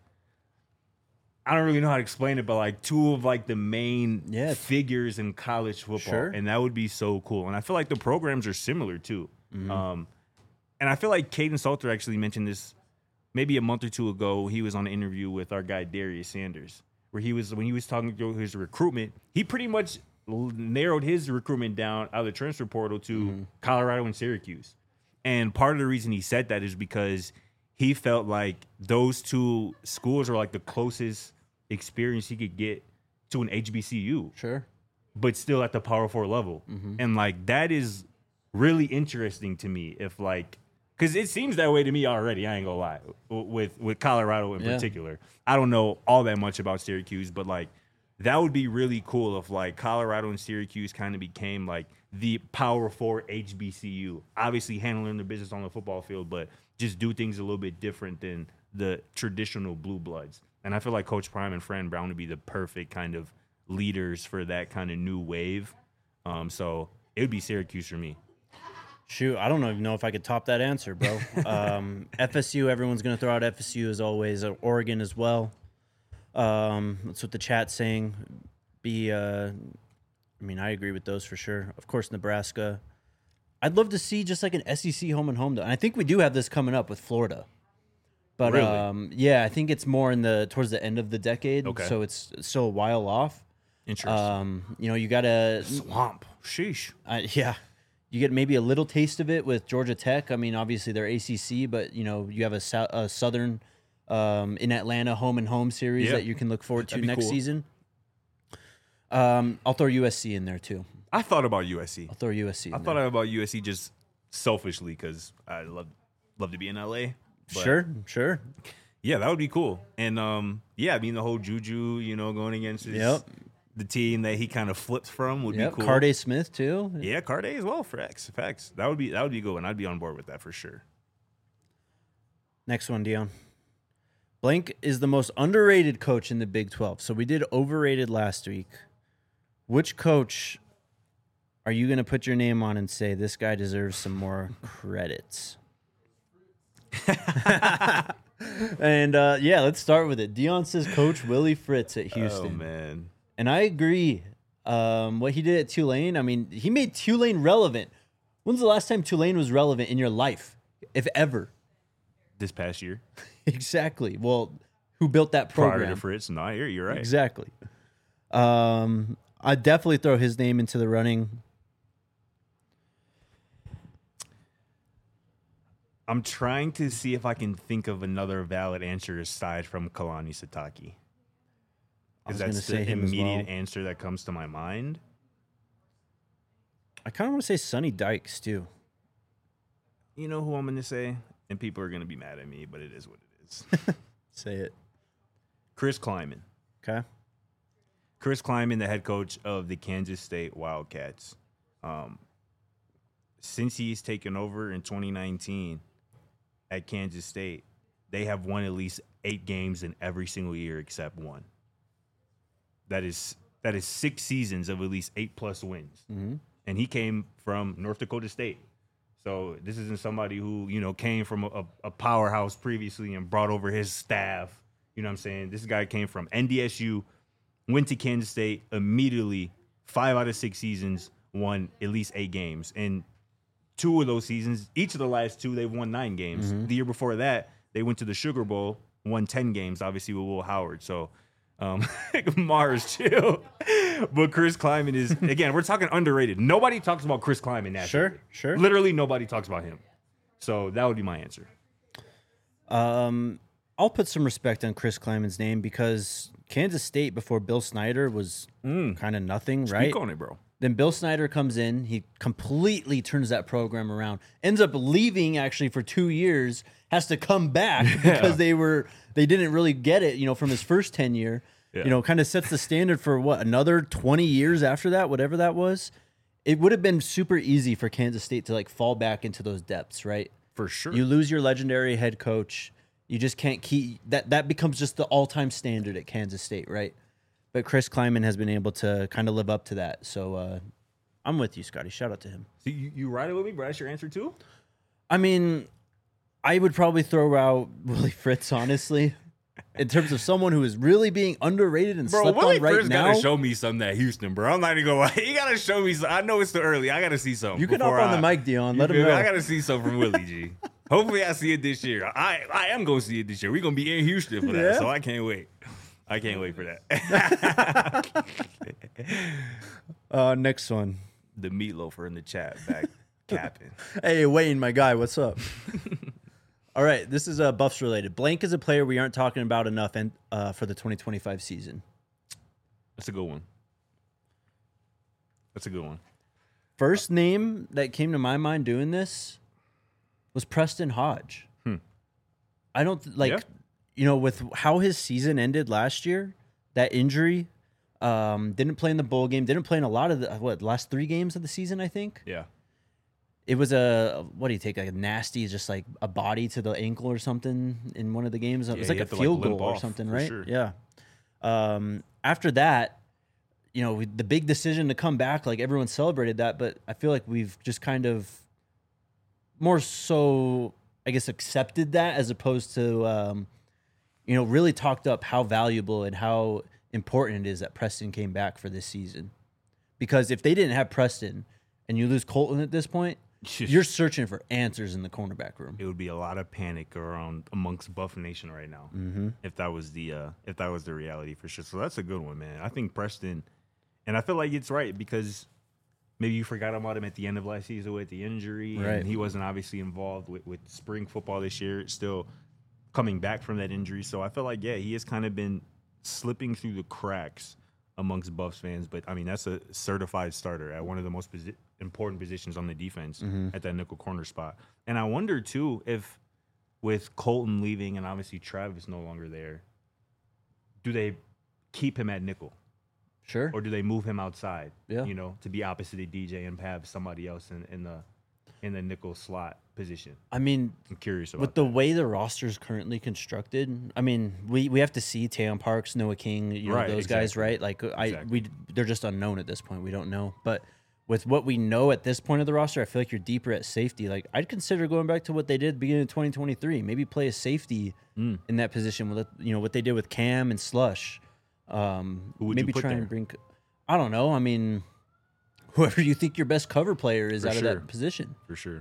I don't really know how to explain it, but like two of like the main figures in college football. Sure. And that would be so cool. And I feel like the programs are similar too. And I feel like Caden Salter actually mentioned this maybe a month or two ago. He was on an interview with our guy Darius Sanders, where when he was talking through his recruitment, he pretty much narrowed his recruitment down out of the transfer portal to Colorado and Syracuse. And part of the reason he said that is because he felt like those two schools are like the closest experience he could get to an HBCU, Sure. but still at the Power 4 level. And like that is really interesting to me, if like, because it seems that way to me already. I ain't gonna lie, with Colorado in particular. I don't know all that much about Syracuse, but like that would be really cool if like Colorado and Syracuse kind of became like the Power 4 HBCU. Obviously handling their business on the football field, but just do things a little bit different than the traditional blue bloods. And I feel like Coach Prime and Fran Brown would be the perfect kind of leaders for that kind of new wave. So it would be Syracuse for me. Shoot, I don't even know if I could top that answer, bro. FSU, everyone's going to throw out FSU as always. Oregon as well. That's what the chat's saying. I agree with those for sure. Of course, Nebraska. I'd love to see just like an SEC home and home, though. And I think we do have this coming up with Florida. But Really? yeah, I think it's more towards the end of the decade. Okay. So it's still a while off. Interesting. You got to Swamp. Sheesh. yeah. You get maybe a little taste of it with Georgia Tech. I mean, obviously they're ACC, but you have a Southern in Atlanta home and home series that you can look forward to That'd be next cool. season. I'll throw USC in there too. I thought about USC. I'll throw USC. I thought about USC just selfishly because I love to be in LA. But Sure. Yeah, that would be cool. And the whole Juju, going against the team that he kind of flipped from would be cool. Carday Smith too. Yeah, Carday as well. Facts. That would be good, and I'd be on board with that for sure. Next one, Dion. Blank is the most underrated coach in the Big 12. So we did overrated last week. Which coach are you going to put your name on and say this guy deserves some more credits? And let's start with it. Dion says Coach Willie Fritz at Houston. Oh man, and I agree. What he did at Tulane, I mean, he made Tulane relevant. When's the last time Tulane was relevant in your life, if ever? this past year Exactly. Well, who built that program? prior to Fritz. No, you're right. Exactly. I'd definitely throw his name into the running. I'm trying to see if I can think of another valid answer aside from Kalani Sitake. I was Because gonna that's say the him as immediate well. answer that comes to my mind. I kind of want to say Sonny Dykes too. You know who I'm going to say? And people are going to be mad at me, but it is what it is. Say it. Chris Kleiman. Okay. Chris Kleiman, the head coach of the Kansas State Wildcats. since he's taken over in 2019 at Kansas State, they have won at least 8 games in every single year except one. That is 6 seasons of at least 8+ wins. Mm-hmm. And he came from North Dakota State. So this isn't somebody who, came from a powerhouse previously and brought over his staff. You know what I'm saying? This guy came from NDSU, went to Kansas State immediately, 5 out of 6 seasons, won at least 8 games. And 2 of those seasons, each of the last 2, they've won 9 games. Mm-hmm. The year before that, they went to the Sugar Bowl, won 10 games, obviously with Will Howard. So Mars chill. But Chris Kleiman is, again, we're talking underrated. Nobody talks about Chris Kleiman naturally. Sure. Literally nobody talks about him. So that would be my answer. I'll put some respect on Chris Kleiman's name because Kansas State before Bill Snyder was kind of nothing, right? Speak on it, bro. Then Bill Snyder comes in. He completely turns that program around. Ends up leaving actually for 2 years. Has to come back because they didn't really get it, from his first tenure. Yeah. Kind of sets the standard for another 20 years after that, whatever that was. It would have been super easy for Kansas State to fall back into those depths, right? For sure. You lose your legendary head coach. You just can't keep that becomes just the all-time standard at Kansas State, right? But Chris Kleiman has been able to kind of live up to that. So I'm with you, Scotty. Shout out to him. So you riding with me, bro? That's your answer too? I mean, I would probably throw out Willie Fritz, honestly, in terms of someone who is really being underrated and slept Willie on right Fritz now. Gotta show me something at Houston, bro. I'm not even gonna lie. You gotta show me something. I know it's too early. I gotta see something. You can hop on the mic, Dion. Let him feel me? know. I gotta see something from Willie G. Hopefully I see it this year. I am gonna see it this year. We're gonna be in Houston for that, Yeah. so I can't wait. I can't wait for that. Next one. The meatloafer in the chat back capping. Hey, Wayne, my guy, what's up? All right, this is Buffs related. Blank is a player we aren't talking about enough for the 2025 season. That's a good one. That's a good one. First name that came to my mind doing this was Preston Hodge. I don't with how his season ended last year, that injury, didn't play in the bowl game, didn't play in a lot of the last 3 games of the season, I think. Yeah. It was what do you take, like a nasty, just like a body to the ankle or something in one of the games. It was like a field goal or something, right? Sure. Yeah. After that, the big decision to come back, like everyone celebrated that, but I feel like we've just kind of more so, I guess, accepted that as opposed to, really talked up how valuable and how important it is that Preston came back for this season. Because if they didn't have Preston and you lose Colton at this point, you're searching for answers in the cornerback room. It would be a lot of panic amongst Buff Nation right now if that was the reality for sure. So that's a good one, man. I think Preston, and I feel like it's right because maybe you forgot about him at the end of last season with the injury, right? And he wasn't obviously involved with spring football this year. It's still coming back from that injury, so I feel like he has kind of been slipping through the cracks amongst Buffs fans. But I mean, that's a certified starter at one of the most important positions on the defense at that nickel corner spot. And I wonder too if with Colton leaving and obviously Travis no longer there, do they keep him at nickel? Sure. Or do they move him outside? Yeah. To be opposite of DJ and have somebody else in the nickel slot position. I mean, I'm curious about with the way the roster is currently constructed. I mean, we have to see Tayon Parks, Noah King, those guys, right? Like they're just unknown at this point. We don't know, but with what we know at this point of the roster, I feel like you're deeper at safety. Like I'd consider going back to what they did at the beginning of 2023. Maybe play a safety in that position with what they did with Cam and Slush. Who would maybe you put try there? and bring. I don't know. I mean, whoever you think your best cover player is For out sure. of that position. For sure.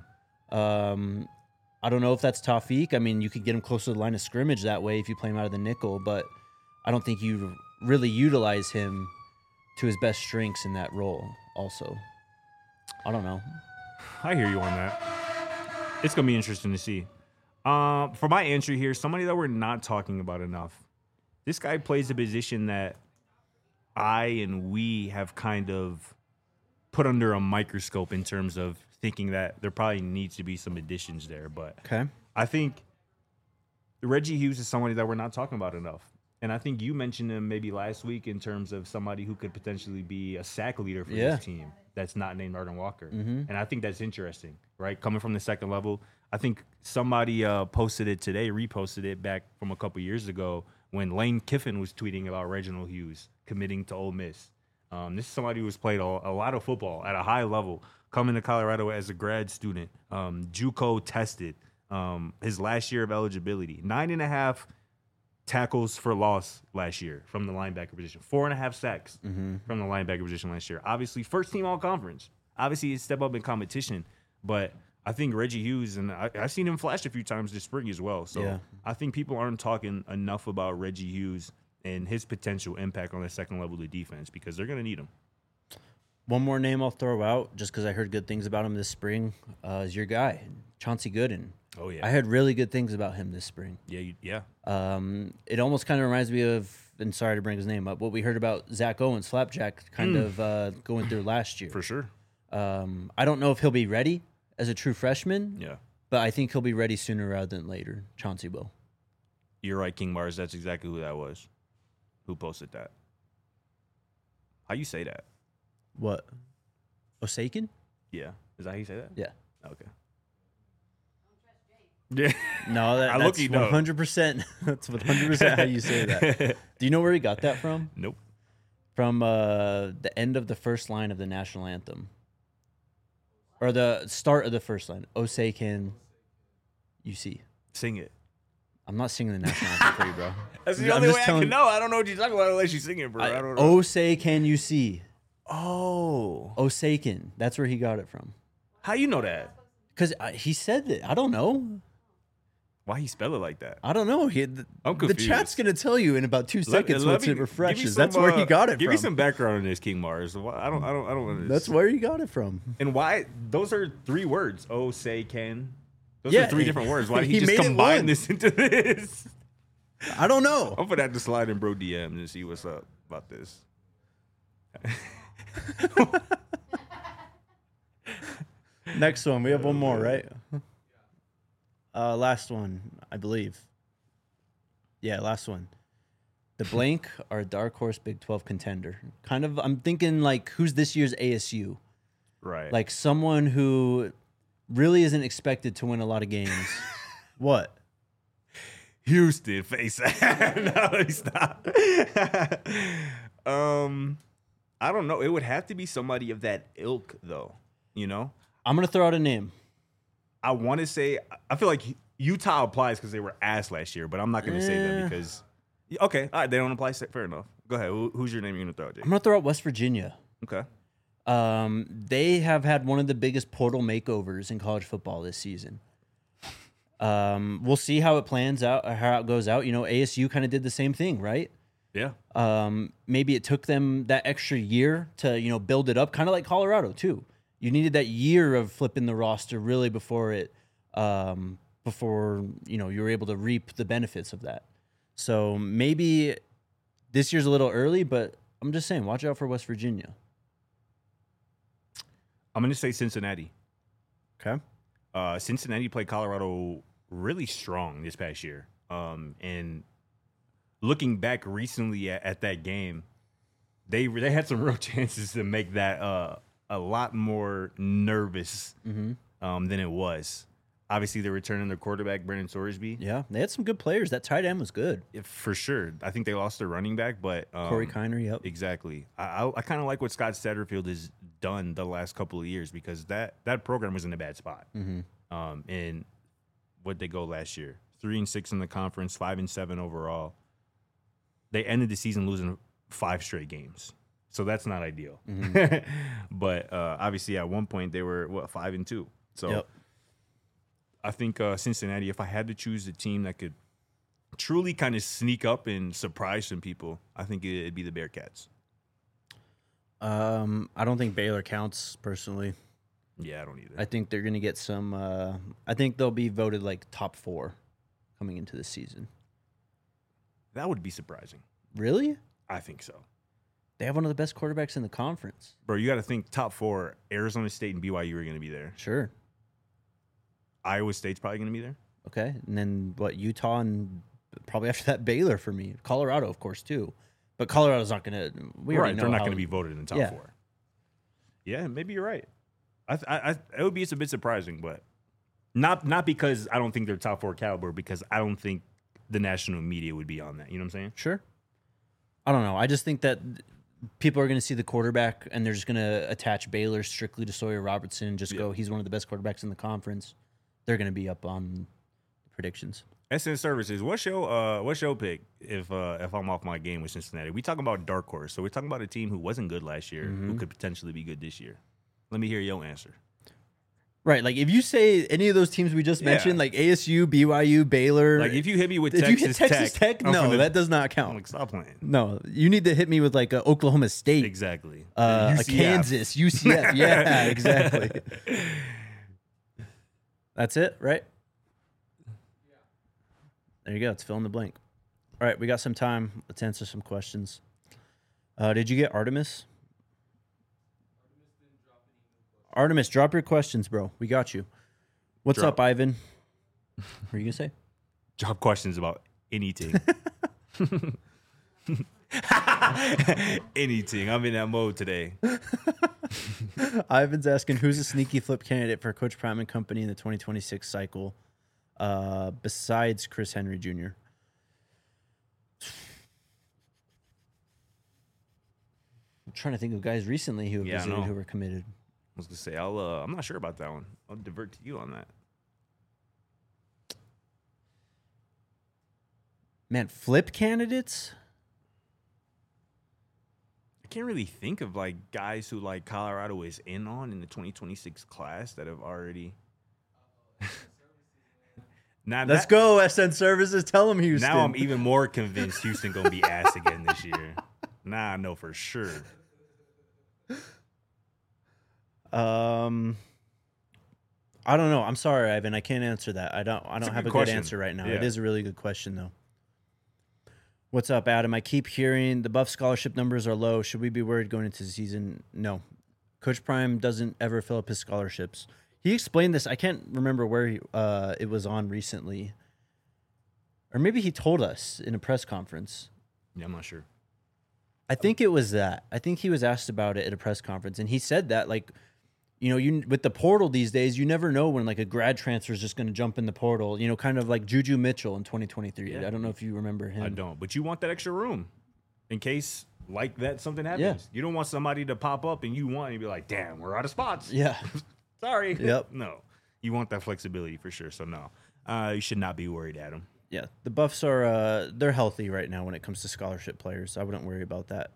I don't know if that's Tawfiq. I mean, you could get him close to the line of scrimmage that way if you play him out of the nickel, but I don't think you really utilize him to his best strengths in that role also. I don't know. I hear you on that. It's going to be interesting to see. For my entry here, somebody that we're not talking about enough. This guy plays a position that I and we have kind of put under a microscope in terms of thinking that there probably needs to be some additions there. But Okay. I think Reggie Hughes is somebody that we're not talking about enough. And I think you mentioned him maybe last week in terms of somebody who could potentially be a sack leader for Yeah. this team that's not named Arden Walker. And I think that's interesting, right? Coming from the second level. I think somebody posted it today, reposted it back from a couple years ago when Lane Kiffin was tweeting about Reginald Hughes committing to Ole Miss. This is somebody who's played a lot of football at a high level, coming to Colorado as a grad student, JUCO tested, his last year of eligibility, 9.5 tackles for loss last year from the linebacker position, 4.5 sacks from the linebacker position last year. Obviously, first team all conference. Obviously, he step up in competition, but I think Reggie Hughes, and I've seen him flash a few times this spring as well. So Yeah. I think people aren't talking enough about Reggie Hughes and his potential impact on the second level of defense because they're going to need him. One more name I'll throw out just because I heard good things about him this spring is your guy, Chauncey Gooden. Oh, yeah. I heard really good things about him this spring. Yeah. It almost kind of reminds me of, and sorry to bring his name up, what we heard about Zach Owens, Flapjack, kind of going through last year. For sure. I don't know if he'll be ready as a true freshman, Yeah. but I think he'll be ready sooner rather than later. Chauncey will. You're right, King Mars. That's exactly who that was. Who posted that? How you say that? What? Osakin? Yeah. Is that how you say that? Yeah. Okay. Yeah. No, I that's look-y know. 100%. That's 100% how you say that. Do you know where he got that from? Nope. From the end of the first line of the national anthem, or the start of the first line. Osakin, you see. Sing it. I'm not singing the national anthem for you, bro. That's the I'm only just way I telling- can know. I don't know what you're talking about unless you sing it, bro. I don't know. Oh, say can you see? Oh. Osakin. That's where he got it from. How you know that? Because he said that. I don't know. Why he spell it like that? I don't know. I'm The confused. chat's going to tell you in about 2 seconds Let once me- it give me refreshes. some, That's where he got it Give from. me some background on this, King Mars. I don't understand. That's where he got it from. And why? Those are 3 words. Oh, say, can. Those Yeah, are 3 different words. Why did he, he just made it combine one. this into this? I don't know. I'm gonna have to slide in bro DM and see what's up about this. Next one. We have one more, right? Last one, I believe. Yeah, last one. The blank are a dark horse Big 12 contender. Kind of, I'm thinking like, who's this year's ASU? Right. Like someone who really isn't expected to win a lot of games. What? Houston face. No, let me stop. I don't know. It would have to be somebody of that ilk, though. You know, I'm going to throw out a name. I want to say. I feel like Utah applies because they were ass last year, but I'm not going to say them because. Okay, all right, they don't apply. Fair enough. Go ahead. Who's your name you're going to throw out, Jake? I'm going to throw out West Virginia. Okay. They have had one of the biggest portal makeovers in college football this season. We'll see how it plans out, or how it goes out. You know, ASU kind of did the same thing, right? Yeah. Maybe it took them that extra year to, you know, build it up, kind of like Colorado too. You needed that year of flipping the roster really before you know, you were able to reap the benefits of that. So maybe this year's a little early, but I'm just saying, watch out for West Virginia. I'm going to say Cincinnati. Okay. Cincinnati played Colorado really strong this past year. And looking back recently at that game, they had some real chances to make that a lot more nervous than it was. Obviously, they're returning their quarterback, Brennan Sorsby. Yeah, they had some good players. That tight end was good. For sure. I think they lost their running back, but Corey Kiner, yep. Exactly. I kind of like what Scott Satterfield has done the last couple of years because that program was in a bad spot. And what'd they go last year? 3-6 in the conference, 5-7 overall. They ended the season losing 5 straight games. So that's not ideal. But obviously at one point they were 5-2. So Yep. I think Cincinnati, if I had to choose a team that could truly kind of sneak up and surprise some people, I think it'd be the Bearcats. I don't think Baylor counts personally. Yeah, I don't either. I think they're going to get some. I think they'll be voted like top 4 coming into the season. That would be surprising. Really? I think so. They have one of the best quarterbacks in the conference. Bro, you got to think top 4, Arizona State and BYU are going to be there. Sure. Iowa State's probably going to be there. Okay. And then what? Utah and probably after that Baylor for me. Colorado, of course, too. But Colorado's not going to. We already know they're not how- going to be voted in the top 4. Yeah, maybe you're right. It would be a bit surprising, but not because I don't think they're top 4 caliber, because I don't think the national media would be on that. You know what I'm saying? Sure. I don't know. I just think that people are going to see the quarterback and they're just going to attach Baylor strictly to Sawyer Robertson and just go, he's one of the best quarterbacks in the conference. They're going to be up on predictions. SN Services, what's your pick if I'm off my game with Cincinnati? We talking about dark horse, so we're talking about a team who wasn't good last year, who could potentially be good this year. Let me hear your answer. Right, like if you say any of those teams we just mentioned, like ASU, BYU, Baylor, Like if you hit me with if you hit Texas Tech, no, that does not count. I'm like, stop playing. No, you need to hit me with like a Oklahoma State, Exactly. a UCF. Kansas, UCF. Yeah, exactly. That's it, right? There you go. It's fill in the blank. All right, we got some time. Let's answer some questions. Did you get Artemis? Artemis, drop your questions, bro. We got you. What's Drop. up, Ivan? What are you gonna say? Drop questions about anything. Anything. I'm in that mode today. Ivan's asking, who's a sneaky flip candidate for Coach Prime and company in the 2026 cycle, besides Chris Henry Jr.? I'm trying to think of guys recently who have Yeah, I visited know. who were committed. I was gonna say I'm not sure about that one. I'll divert to you on that. Man, flip candidates? I can't really think of like guys who like Colorado is in on in the 2026 class that have already. Let's go, SN Services. Tell them Houston. Now I'm even more convinced Houston gonna be ass again this year. Now I know for sure. I don't know. I'm sorry, Ivan. I can't answer that. I don't a have good a question. good answer right now. Yeah. It is a really good question, though. What's up, Adam? I keep hearing the Buff scholarship numbers are low. Should we be worried going into the season? No. Coach Prime doesn't ever fill up his scholarships. He explained this. I can't remember where it was on recently. Or maybe he told us in a press conference. Yeah, I'm not sure. I think it was that. I think he was asked about it at a press conference, and he said that, like, you know, you with the portal these days, you never know when like a grad transfer is just going to jump in the portal. You know, kind of like Juju Mitchell in 2023. Yeah. I don't know if you remember him. I don't. But you want that extra room in case like that something happens. Yeah. You don't want somebody to pop up and you want to be like, damn, we're out of spots. Yeah. Sorry. Yep. No. You want that flexibility for sure. So no. You should not be worried, Adam. Yeah. The Buffs are they're healthy right now when it comes to scholarship players. I wouldn't worry about that.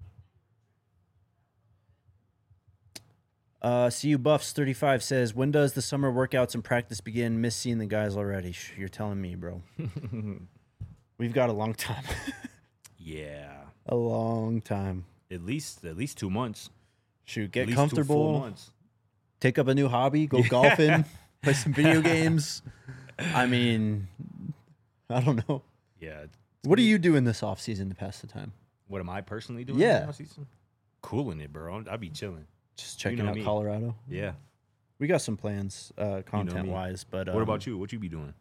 CU Buffs 35 says, when does the summer workouts and practice begin? Miss seeing the guys already. You're telling me, bro. We've got a long time. Yeah. A long time. At least 2 months. Shoot, At get least 2 full comfortable. months. Take up a new hobby, go golfing, play some video games. I mean, I don't know. Yeah. What are you doing this offseason to pass the time? What am I personally doing? Yeah. this offseason? Cooling it, bro. I'll be chilling. Just checking know out me. Colorado. Yeah. We got some plans, content-wise, but What about you? What you be doing?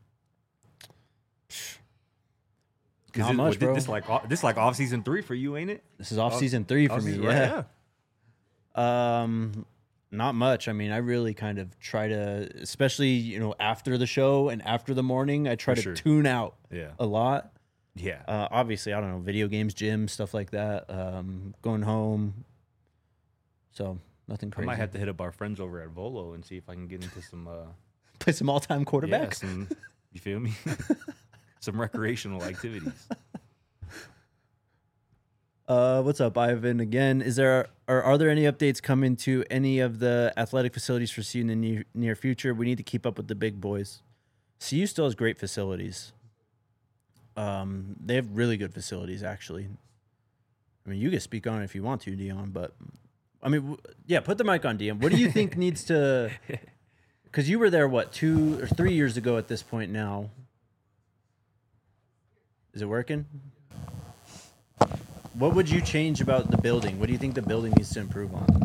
Not much, bro. This like off season 3 for you, ain't it? This is off season 3 for me. Off-season, Yeah. right, Not much. I mean, I really kind of try to, especially, you know, after the show and after the morning, I try For to sure. tune out Yeah. a lot. Yeah. Obviously, I don't know, video games, gym, stuff like that. Going home. So nothing I crazy. might have to hit up our friends over at Volo and see if I can get into some play some all-time quarterbacks. you feel me? Some recreational activities. What's up, Ivan? Again, are there any updates coming to any of the athletic facilities for CU in the near future? We need to keep up with the big boys. CU still has great facilities. They have really good facilities, actually. I mean, you can speak on it if you want to, Dion, but I mean, yeah, put the mic on, Dion. What do you think needs to? Because you were there, what, 2 or 3 years ago at this point now. Is it working? What would you change about the building? What do you think the building needs to improve on?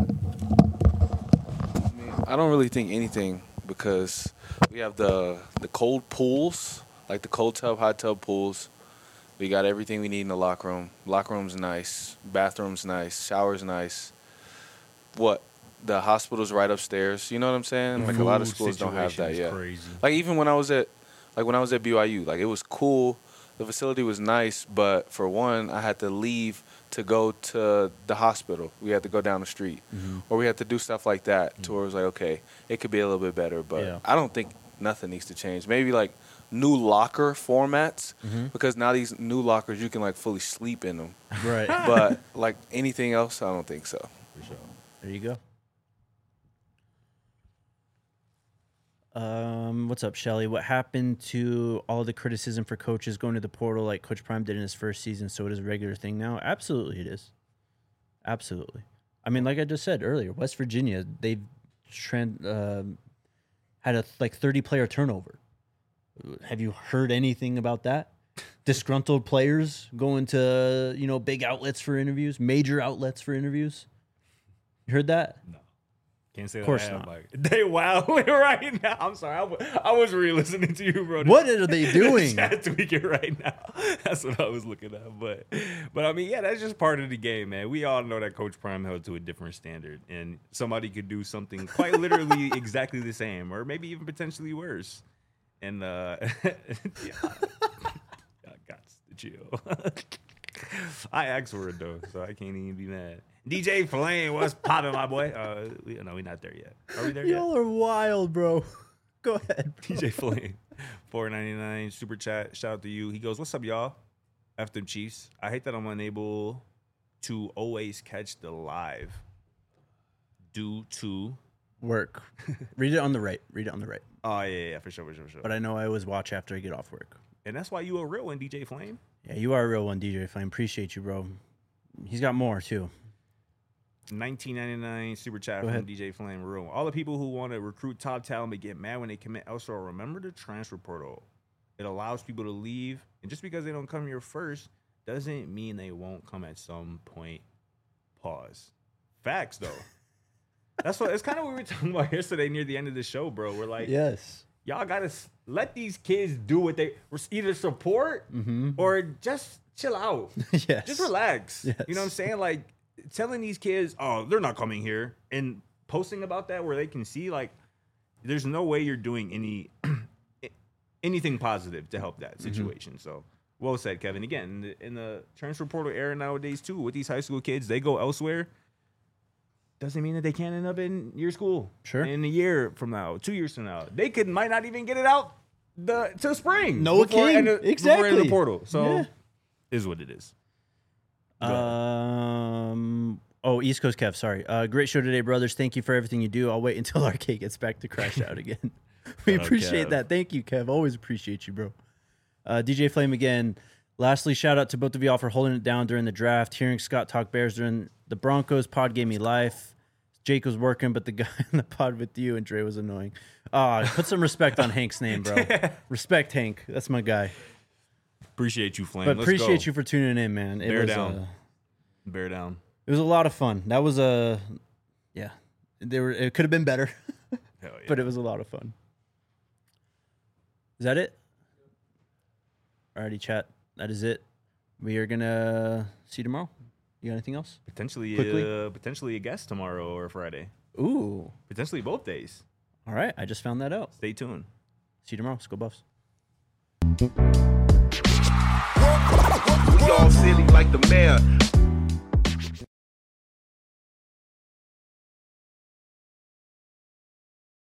I don't really think anything because we have the cold pools, like the cold tub, hot tub pools. We got everything we need in the locker room. Locker room's nice. Bathroom's nice. Shower's nice. The hospital's right upstairs. You know what I'm saying? Like a lot of schools don't have that yet. Crazy. Like even when I was at BYU, like it was cool. The facility was nice, but for one, I had to leave to go to the hospital. We had to go down the street, or we had to do stuff like that. To where it was like, okay, it could be a little bit better, but I don't think nothing needs to change. Maybe like new locker formats, because now these new lockers you can like fully sleep in them. Right. But like anything else, I don't think so. For sure. There you go. What's up, Shelly? What happened to all the criticism for coaches going to the portal like Coach Prime did in his first season? So it is a regular thing now? Absolutely, it is. Absolutely. I mean, like I just said earlier, West Virginia, they've had a 30-player turnover. Have you heard anything about that? Disgruntled players going to, big outlets for interviews, major outlets for interviews? You heard that? No. Can't say of course that. not. Like, they wilding right now. I'm sorry. I was really listening to you, bro. What are they doing? Chat tweaking right now. That's what I was looking at. But I mean, yeah, that's just part of the game, man. We all know that Coach Prime held to a different standard, and somebody could do something quite literally exactly the same, or maybe even potentially worse. And yeah, I got to chill. I asked for it though, so I can't even be mad. DJ Flame, what's popping, my boy? No, we're not there yet. Are we there yet? Y'all are wild, bro. Go ahead, bro. DJ Flame, $4.99 super chat. Shout out to you. He goes, "What's up, y'all? F them Chiefs. I hate that I'm unable to always catch the live due to work." Read it on the right. Read it on the right. Oh yeah, for sure. But I know I always watch after I get off work. And that's why you a real one, DJ Flame. Yeah, you are a real one, DJ Flame. Appreciate you, bro. He's got more too. $19.99 super chat from DJ Flame Room. All the people who want to recruit top talent but get mad when they commit elsewhere, remember the transfer portal. It allows people to leave, and just because they don't come here first doesn't mean they won't come at some point. Pause. Facts, though. That's kind of what we were talking about yesterday near the end of the show, bro. We're like, yes, y'all gotta let these kids do what they either support or just chill out. Yes, just relax. Yes. You know what I'm saying? Like, telling these kids, oh, they're not coming here, and posting about that where they can see, like, there's no way you're doing anything positive to help that situation. So, well said, Kevin. Again, in the transfer portal era nowadays, too, with these high school kids, they go elsewhere. Doesn't mean that they can't end up in your school. Sure. In a year from now, 2 years from now. They might not even get it out till spring. Noah King. Exactly. Before the portal. So, is what it is. East Coast Kev, sorry. Great show today, brothers. Thank you for everything you do. I'll wait until RK gets back to crash out again. We appreciate that. Thank you, Kev. Always appreciate you, bro. DJ Flame again. Lastly, shout out to both of y'all for holding it down during the draft. Hearing Scott talk Bears during the Broncos pod gave me life. Jake was working, but the guy in the pod with you and Dre was annoying. Put some respect on Hank's name, bro. Respect Hank. That's my guy. Appreciate you, Flame. But appreciate you for tuning in, man. Bear down. Bear down. It was a lot of fun. That was it could have been better, Hell yeah. but it was a lot of fun. Is that it? Alrighty, chat. That is it. We are gonna see you tomorrow. You got anything else? Potentially a guest tomorrow or Friday. Ooh. Potentially both days. All right. I just found that out. Stay tuned. See you tomorrow. Let's go Buffs. We all silly like the mayor.